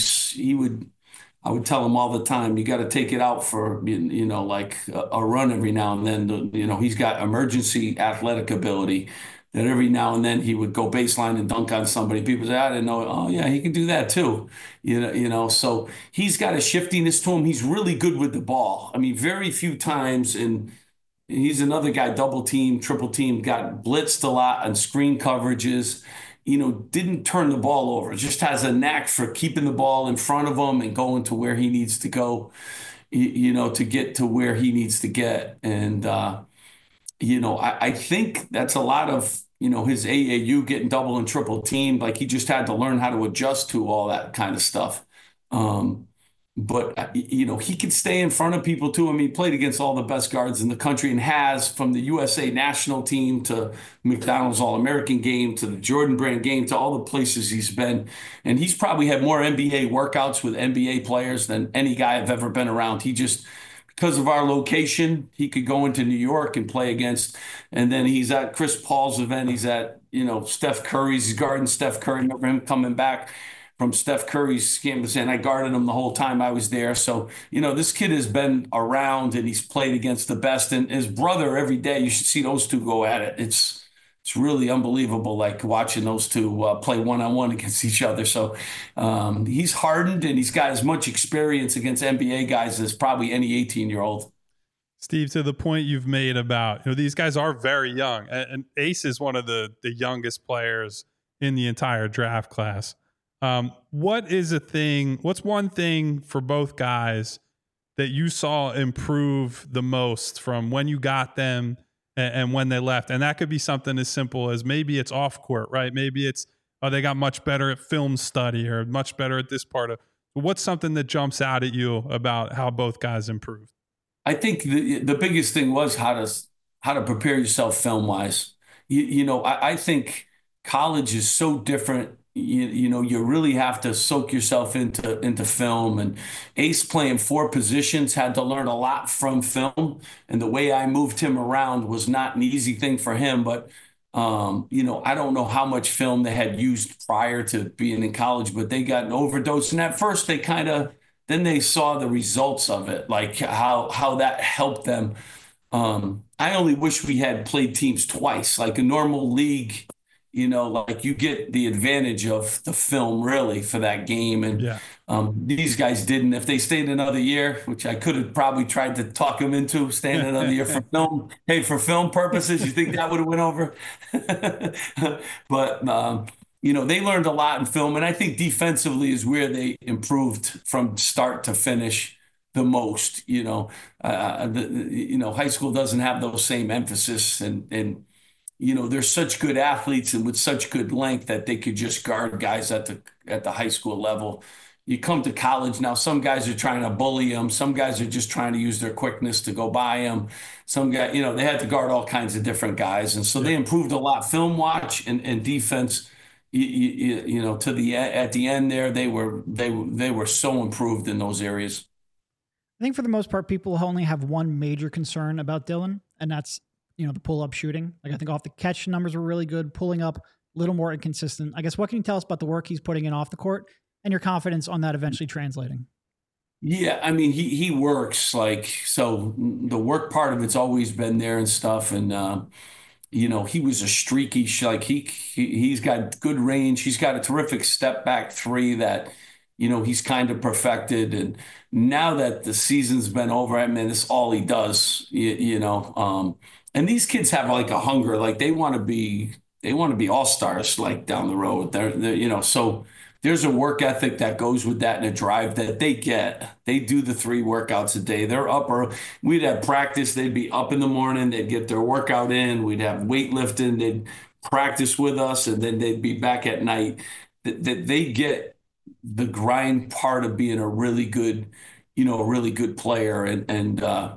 I would tell him all the time, you got to take it out for, you know, like a run every now and then. You know, he's got emergency athletic ability that every now and then he would go baseline and dunk on somebody. People say, I didn't know. Oh, yeah, he can do that too. You know, so he's got a shiftiness to him. He's really good with the ball. I mean, very few times, and he's another guy, double team, triple team, got blitzed a lot on screen coverages, you know, didn't turn the ball over, just has a knack for keeping the ball in front of him and going to where he needs to go, you know, to get to where he needs to get. And, you know, I think that's a lot of, you know, his AAU getting double and triple teamed. Like, he just had to learn how to adjust to all that kind of stuff. But, you know, he could stay in front of people too. I mean, he played against all the best guards in the country, and has, from the USA national team to McDonald's All-American game to the Jordan Brand game to all the places he's been. And he's probably had more NBA workouts with NBA players than any guy I've ever been around. He just, because of our location, he could go into New York and play against, and then he's at Chris Paul's event. He's at, you know, Steph Curry's. He's guarding Steph Curry. Remember him coming back from Steph Curry's campus, and I guarded him the whole time I was there. So, you know, this kid has been around, and he's played against the best. And his brother, every day, you should see those two go at it. It's really unbelievable, like watching those two play one-on-one against each other. So he's hardened, and he's got as much experience against NBA guys as probably any 18-year-old.
Steve, to the point you've made about, you know, these guys are very young, and Ace is one of the youngest players in the entire draft class. What's one thing for both guys that you saw improve the most from when you got them and when they left? And that could be something as simple as maybe it's off court, right? Maybe it's, they got much better at film study or much better at this part of. What's something that jumps out at you about how both guys improved?
I think the biggest thing was how to prepare yourself film wise. You know, I think college is so different. You know, you really have to soak yourself into film. And Ace, playing 4 positions, had to learn a lot from film. And the way I moved him around was not an easy thing for him. But, you know, I don't know how much film they had used prior to being in college, but they got an overdose. And at first then they saw the results of it, like how that helped them. I only wish we had played teams twice, like a normal league. You know, like, you get the advantage of the film really for that game. And these guys didn't. If they stayed another year, which I could have probably tried to talk them into staying another year for film. Hey, for film purposes, you think that would have went over? But, you know, they learned a lot in film. And I think defensively is where they improved from start to finish the most. You know, high school doesn't have those same emphasis, and you know, they're such good athletes and with such good length that they could just guard guys at the high school level. You come to college now, some guys are trying to bully them. Some guys are just trying to use their quickness to go by them. Some guys, you know, they had to guard all kinds of different guys. And so they improved a lot. Film watch and defense, you know, at the end there, they were so improved in those areas.
I think for the most part, people only have one major concern about Dylan, and that's, you know, the pull-up shooting. Like, I think off the catch numbers were really good. Pulling up, a little more inconsistent. I guess, what can you tell us about the work he's putting in off the court and your confidence on that eventually translating?
Yeah, I mean, he works like, so the work part of it's always been there and stuff. And, he was a streaky, like he's got good range. He's got a terrific step back three that, he's kind of perfected. And now that the season's been over, I mean, it's all he does, and these kids have like a hunger, like they want to be all-stars, like down the road. So there's a work ethic that goes with that and a drive that they get. They do the 3 workouts a day. They're up, or we'd have practice. They'd be up in the morning. They'd get their workout in. We'd have weightlifting. They'd practice with us, and then they'd be back at night. They get the grind part of being a really good player, and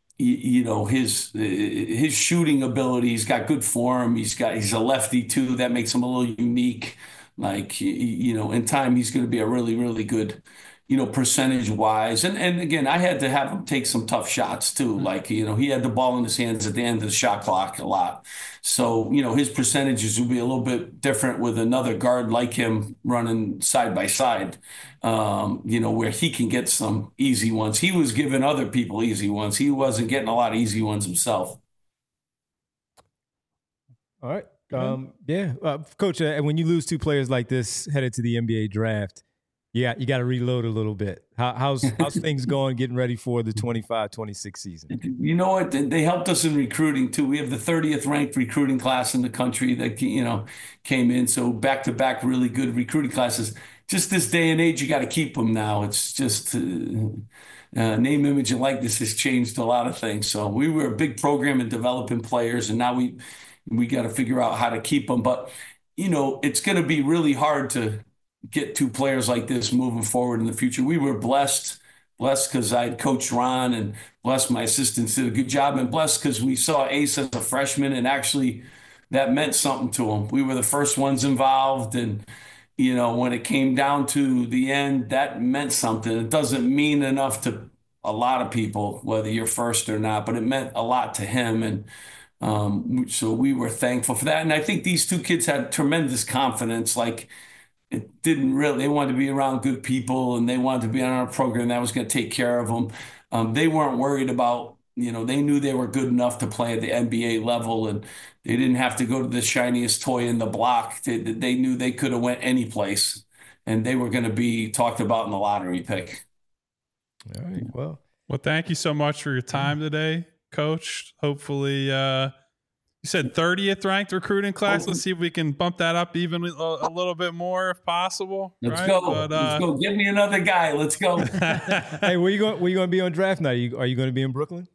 his shooting ability. He's got good form. He's a lefty too. That makes him a little unique. Like, in time, he's going to be a really, really good, percentage wise. And again, I had to have him take some tough shots too. Like, he had the ball in his hands at the end of the shot clock a lot. So, his percentages will be a little bit different with another guard like him running side by side, where he can get some easy ones. He was giving other people easy ones. He wasn't getting a lot of easy ones himself.
All right. Coach, when you lose 2 players like this headed to the NBA draft, you got to reload a little bit. How's things going getting ready for the 25-26 season?
You know what? They helped us in recruiting too. We have the 30th ranked recruiting class in the country that, came in. So back-to-back really good recruiting classes. Just this day and age, you got to keep them now. It's just name, image, and likeness has changed a lot of things. So we were a big program in developing players, and now we got to figure out how to keep them. But, it's going to be really hard to get 2 players like this moving forward in the future. We were blessed because I had coached Ron, and blessed my assistants did a good job, and blessed because we saw Ace as a freshman, and actually that meant something to him. We were the first ones involved, and, when it came down to the end, that meant something. It doesn't mean enough to a lot of people, whether you're first or not, but it meant a lot to him. And so we were thankful for that. And I think these 2 kids had tremendous confidence. Like, they wanted to be around good people, and they wanted to be on our program that was going to take care of them. They weren't worried about, they knew they were good enough to play at the NBA level, and they didn't have to go to the shiniest toy in the block. They knew they could have went any place, and they were going to be talked about in the lottery pick.
All right. Well,
thank you so much for your time today, Coach. Hopefully, you said 30th ranked recruiting class. Let's see if we can bump that up even a little bit more if possible.
Let's go. Let's go. Give me another guy. Let's go.
Hey, where you going to be on draft night? Are you going to be in Brooklyn?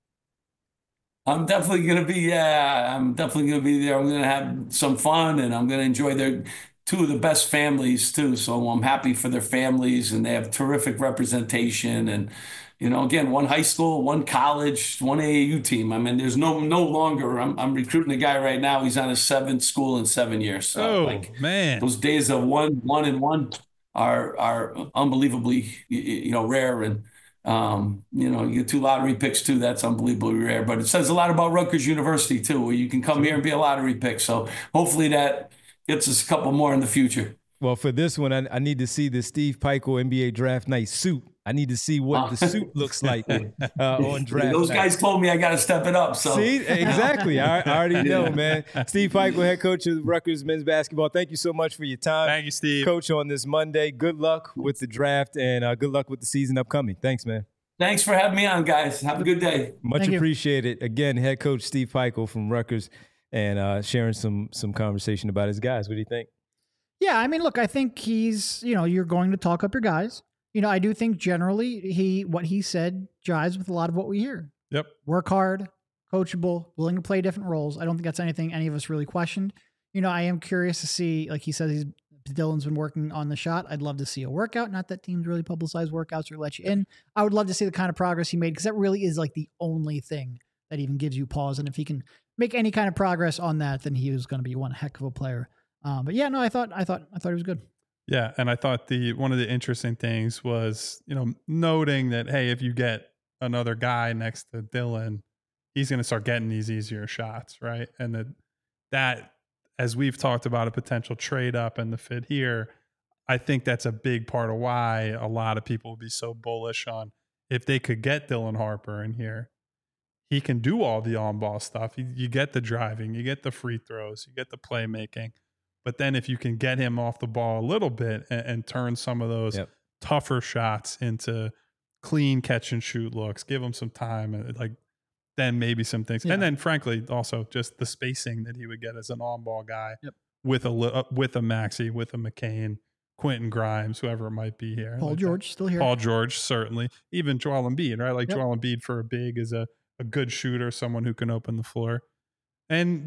I'm definitely going to be there. I'm going to have some fun, and I'm going to enjoy their 2 of the best families too. So I'm happy for their families, and they have terrific representation. And, again, 1 high school, 1 college, 1 AAU team. I mean, there's no longer, I'm recruiting a guy right now. He's on his 7th school in 7 years. So,
man,
those days of 1 and 1 are unbelievably, rare. And, you get 2 lottery picks too. That's unbelievably rare, but it says a lot about Rutgers University too, where you can come here and be a lottery pick. So hopefully that gets us a couple more in the future.
Well, for this one, I need to see the Steve Pikiell NBA draft night suit. I need to see what the suit looks like on draft
Those
night.
Guys told me I got to step it up. So
see, exactly. I already know, man. Steve Pikiell, head coach of Rutgers men's basketball. Thank you so much for your time.
Thank you, Steve.
Coach, on this Monday. Good luck with the draft, and good luck with the season upcoming. Thanks, man.
Thanks for having me on, guys. Have a good day.
Much appreciated. Again, head coach Steve Pikiell from Rutgers, and sharing some conversation about his guys. What do you think?
Yeah, I mean, look, I think he's, you're going to talk up your guys. I do think generally what he said jives with a lot of what we hear.
Yep.
Work hard, coachable, willing to play different roles. I don't think that's anything any of us really questioned. I am curious to see, like he says, Dylan's been working on the shot. I'd love to see a workout. Not that teams really publicize workouts or let you in. I would love to see the kind of progress he made, because that really is like the only thing that even gives you pause. And if he can make any kind of progress on that, then he was going to be one heck of a player. But yeah, no, I thought he was good.
Yeah, and I thought one of the interesting things was, noting that, hey, if you get another guy next to Dylan, he's going to start getting these easier shots, right? And that as we've talked about a potential trade up and the fit here, I think that's a big part of why a lot of people would be so bullish on if they could get Dylan Harper in here. He can do all the on-ball stuff. You get the driving, you get the free throws, you get the playmaking. But then if you can get him off the ball a little bit and turn some of those tougher shots into clean catch and shoot looks, give him some time, and like then maybe some things. And then frankly, also just the spacing that he would get as an on-ball guy with a Maxey, with a McCain, Quentin Grimes, whoever it might be here.
Paul George still here.
Paul George, certainly. Even Joel Embiid, right? Like Joel Embiid for a big is a good shooter, someone who can open the floor. And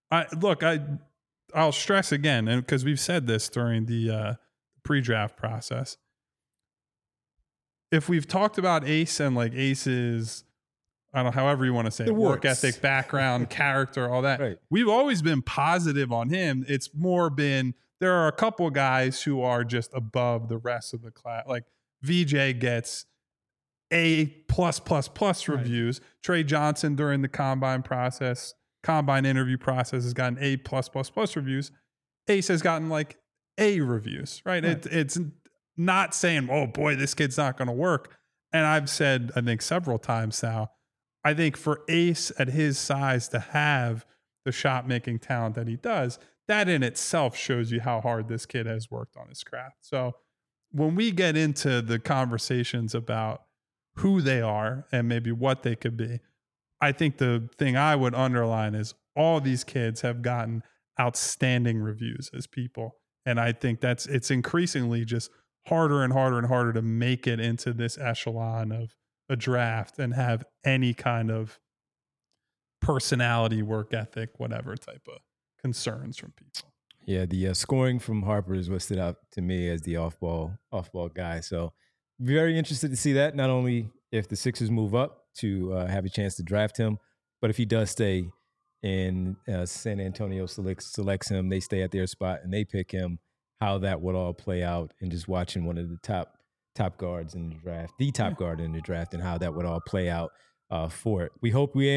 I'll stress again, and because we've said this during the pre-draft process, if we've talked about Ace and like Ace's, I don't know, however you want to say it, work ethic, background, character, all that,
right.
We've always been positive on him. It's more been, there are a couple guys who are just above the rest of the class. Like VJ gets A+++ reviews. Trey Johnson during the combine interview process has gotten A+++ reviews. Ace has gotten like A reviews, right? It's not saying, oh boy, this kid's not going to work. And I've said, I think several times now, I think for Ace at his size to have the shot making talent that he does, that in itself shows you how hard this kid has worked on his craft. So when we get into the conversations about who they are and maybe what they could be, I think the thing I would underline is all these kids have gotten outstanding reviews as people. And I think it's increasingly just harder and harder and harder to make it into this echelon of a draft and have any kind of personality, work ethic, whatever type of concerns from people.
Yeah, the scoring from Harper is what stood out to me as the off-ball guy. So very interested to see that, not only if the Sixers move up to have a chance to draft him, but if he does stay and San Antonio selects him, they stay at their spot and they pick him, how that would all play out, and just watching one of the top guards in the draft, the top guard in the draft, and how that would all play out for it. We hope we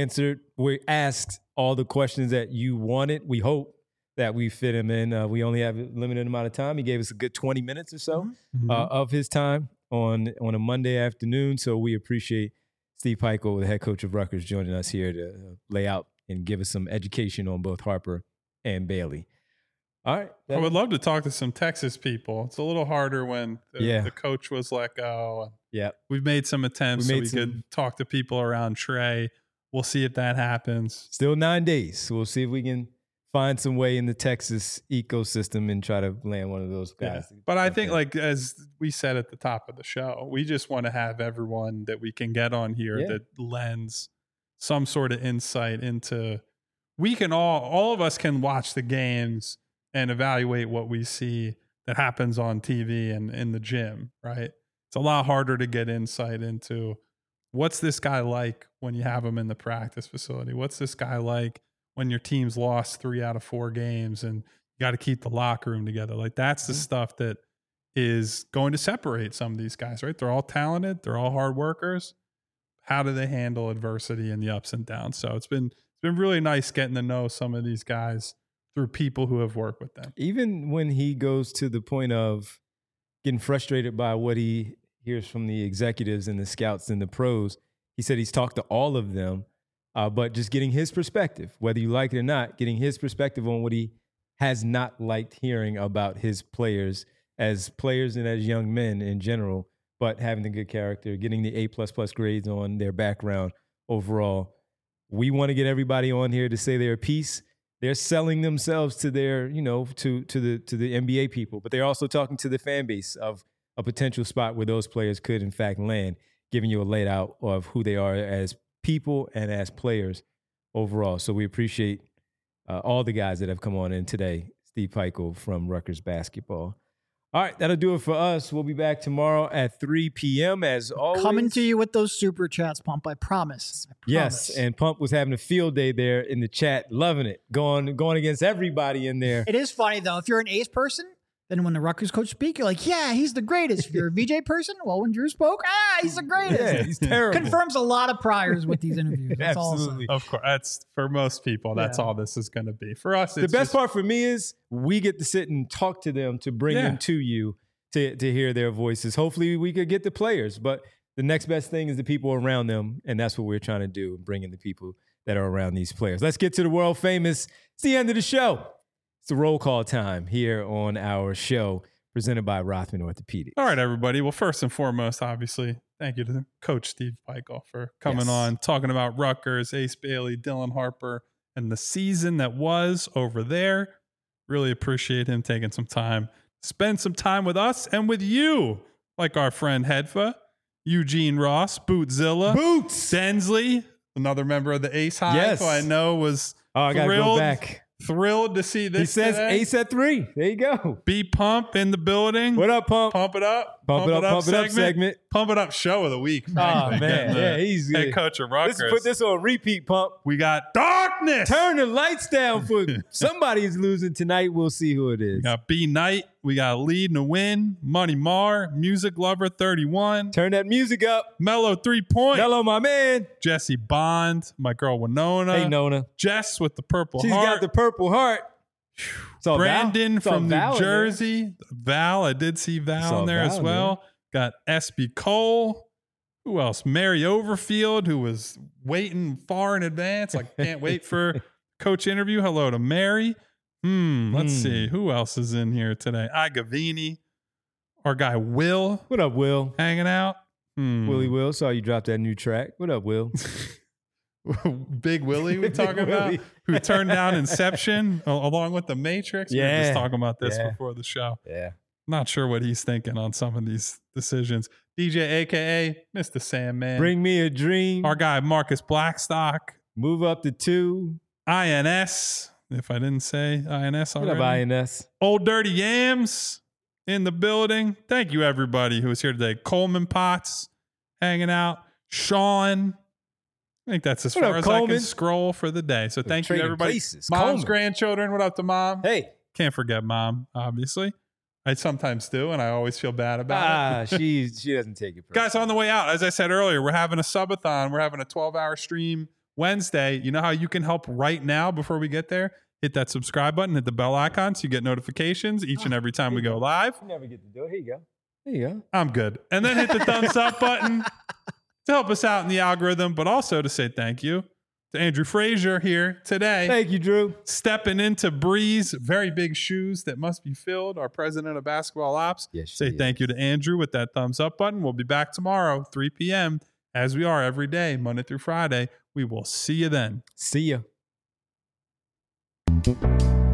asked all the questions that you wanted. We hope that we fit him in. We only have a limited amount of time. He gave us a good 20 minutes or so of his time on a Monday afternoon. So we appreciate Steve Pikiell, the head coach of Rutgers, joining us here to lay out and give us some education on both Harper and Bailey. All right.
I would love to talk to some Texas people. It's a little harder when the coach was let go.
Yeah.
We've made some attempts we could talk to people around Trey. We'll see if that happens.
Still 9 days. So we'll see if we can find some way in the Texas ecosystem and try to land one of those guys.
Yeah. But I think, like, as we said at the top of the show, we just want to have everyone that we can get on here that lends some sort of insight into, we can all of us can watch the games and evaluate what we see that happens on TV and in the gym, right? It's a lot harder to get insight into what's this guy like when you have him in the practice facility? What's this guy like when your team's lost 3 out of 4 games and you got to keep the locker room together? Like, that's the stuff that is going to separate some of these guys, right? They're all talented. They're all hard workers. How do they handle adversity and the ups and downs? So it's been really nice getting to know some of these guys through people who have worked with them.
Even when he goes to the point of getting frustrated by what he hears from the executives and the scouts and the pros, he said he's talked to all of them, but just getting his perspective, whether you like it or not, getting his perspective on what he has not liked hearing about his players as players and as young men in general, but having the good character, getting the A++ grades on their background overall. We want to get everybody on here to say their piece. They're selling themselves to their, to the NBA people, but they're also talking to the fan base of a potential spot where those players could, in fact, land, giving you a layout of who they are as people and as players overall. So we appreciate all the guys that have come on in today. Steve Pikiell from Rutgers Basketball. All right, that'll do it for us. We'll be back tomorrow at 3 p.m. as always.
Coming to you with those super chats, Pump. I promise.
Yes, and Pump was having a field day there in the chat, loving it, going against everybody in there.
It is funny, though. If you're an Ace person, Then when the Rutgers coach speak, you're like, yeah, he's the greatest. If you're a VJ person, well, when Drew spoke, he's the greatest.
Yeah, he's terrible.
Confirms a lot of priors with these interviews. That's
Absolutely.
Of course. That's for most people. That's all this is going to be. For us, it's
the best part for me is we get to sit and talk to them to bring them to you to hear their voices. Hopefully we could get the players, but the next best thing is the people around them, and that's what we're trying to do, bringing the people that are around these players. Let's get to the world famous. It's the end of the show. It's the roll call time here on our show presented by Rothman Orthopedics.
All right, everybody. Well, first and foremost, obviously, thank you to Coach Steve Pikiell for coming on, talking about Rutgers, Ace Bailey, Dylan Harper, and the season that was over there. Really appreciate him taking some time, spend some time with us and with you, like our friend Hedfa, Eugene Ross, Bootzilla, Densley, another member of the Ace Hive, who I know was thrilled to see this.
He says today. Ace at 3. There you go.
B Pump in the building.
What up, Pump?
Pump it up.
Pump it up segment.
Pump it up show of the week.
Oh, man. Yeah, he's good.
Head coach of Rutgers.
Let's put this on repeat, Pump.
We got Darkness.
Turn the lights down for somebody's losing tonight. We'll see who it is.
We got B Knight. We got Lead and Win. Money Mar. Music Lover 31.
Turn that music up.
Mellow 3 Point.
Mellow, my man.
Jesse Bond. My girl Winona.
Hey, Nona.
Jess with the purple
She's
heart.
got the purple heart.
Brandon from New Jersey. Val. I did see Val in there as well. Got SB Cole. Who else? Mary Overfield, who was waiting far in advance. Like, can't wait for coach interview. Hello to Mary. Let's see. Who else is in here today? Gavini. Our guy Will.
What up, Will?
Hanging out.
Willie Will. Saw you drop that new track. What up, Will?
Big Willie we talking about, who turned down Inception along with The Matrix. We were just talking about this before the show.
Yeah.
Not sure what he's thinking on some of these decisions. DJ, a.k.a. Mr. Sandman.
Bring me a dream.
Our guy Marcus Blackstock.
Move up to 2.
INS. If I didn't say INS already.
What up, INS?
Old Dirty Yams in the building. Thank you, everybody who was here today. Coleman Potts hanging out. Sean. I think that's as far as I can scroll for the day. So thank you, everybody. Mom's grandchildren. What up to Mom?
Hey.
Can't forget Mom, obviously. I sometimes do, and I always feel bad about it.
She doesn't take it personally.
Guys, on the way out, as I said earlier, we're having a subathon. We're having a 12-hour stream Wednesday. You know how you can help right now before we get there? Hit that subscribe button, hit the bell icon so you get notifications each and every time we go live.
You never get to do it. Here you go. There you go.
I'm good. And then hit the thumbs up button to help us out in the algorithm, but also to say thank you to Andrew Frazier here today.
Thank you, Drew.
Stepping into Bree's very big shoes that must be filled, our president of basketball ops.
Yes,
say thank you to Andrew with that thumbs up button. We'll be back tomorrow, 3 p.m., as we are every day, Monday through Friday. We will see you then.
See ya.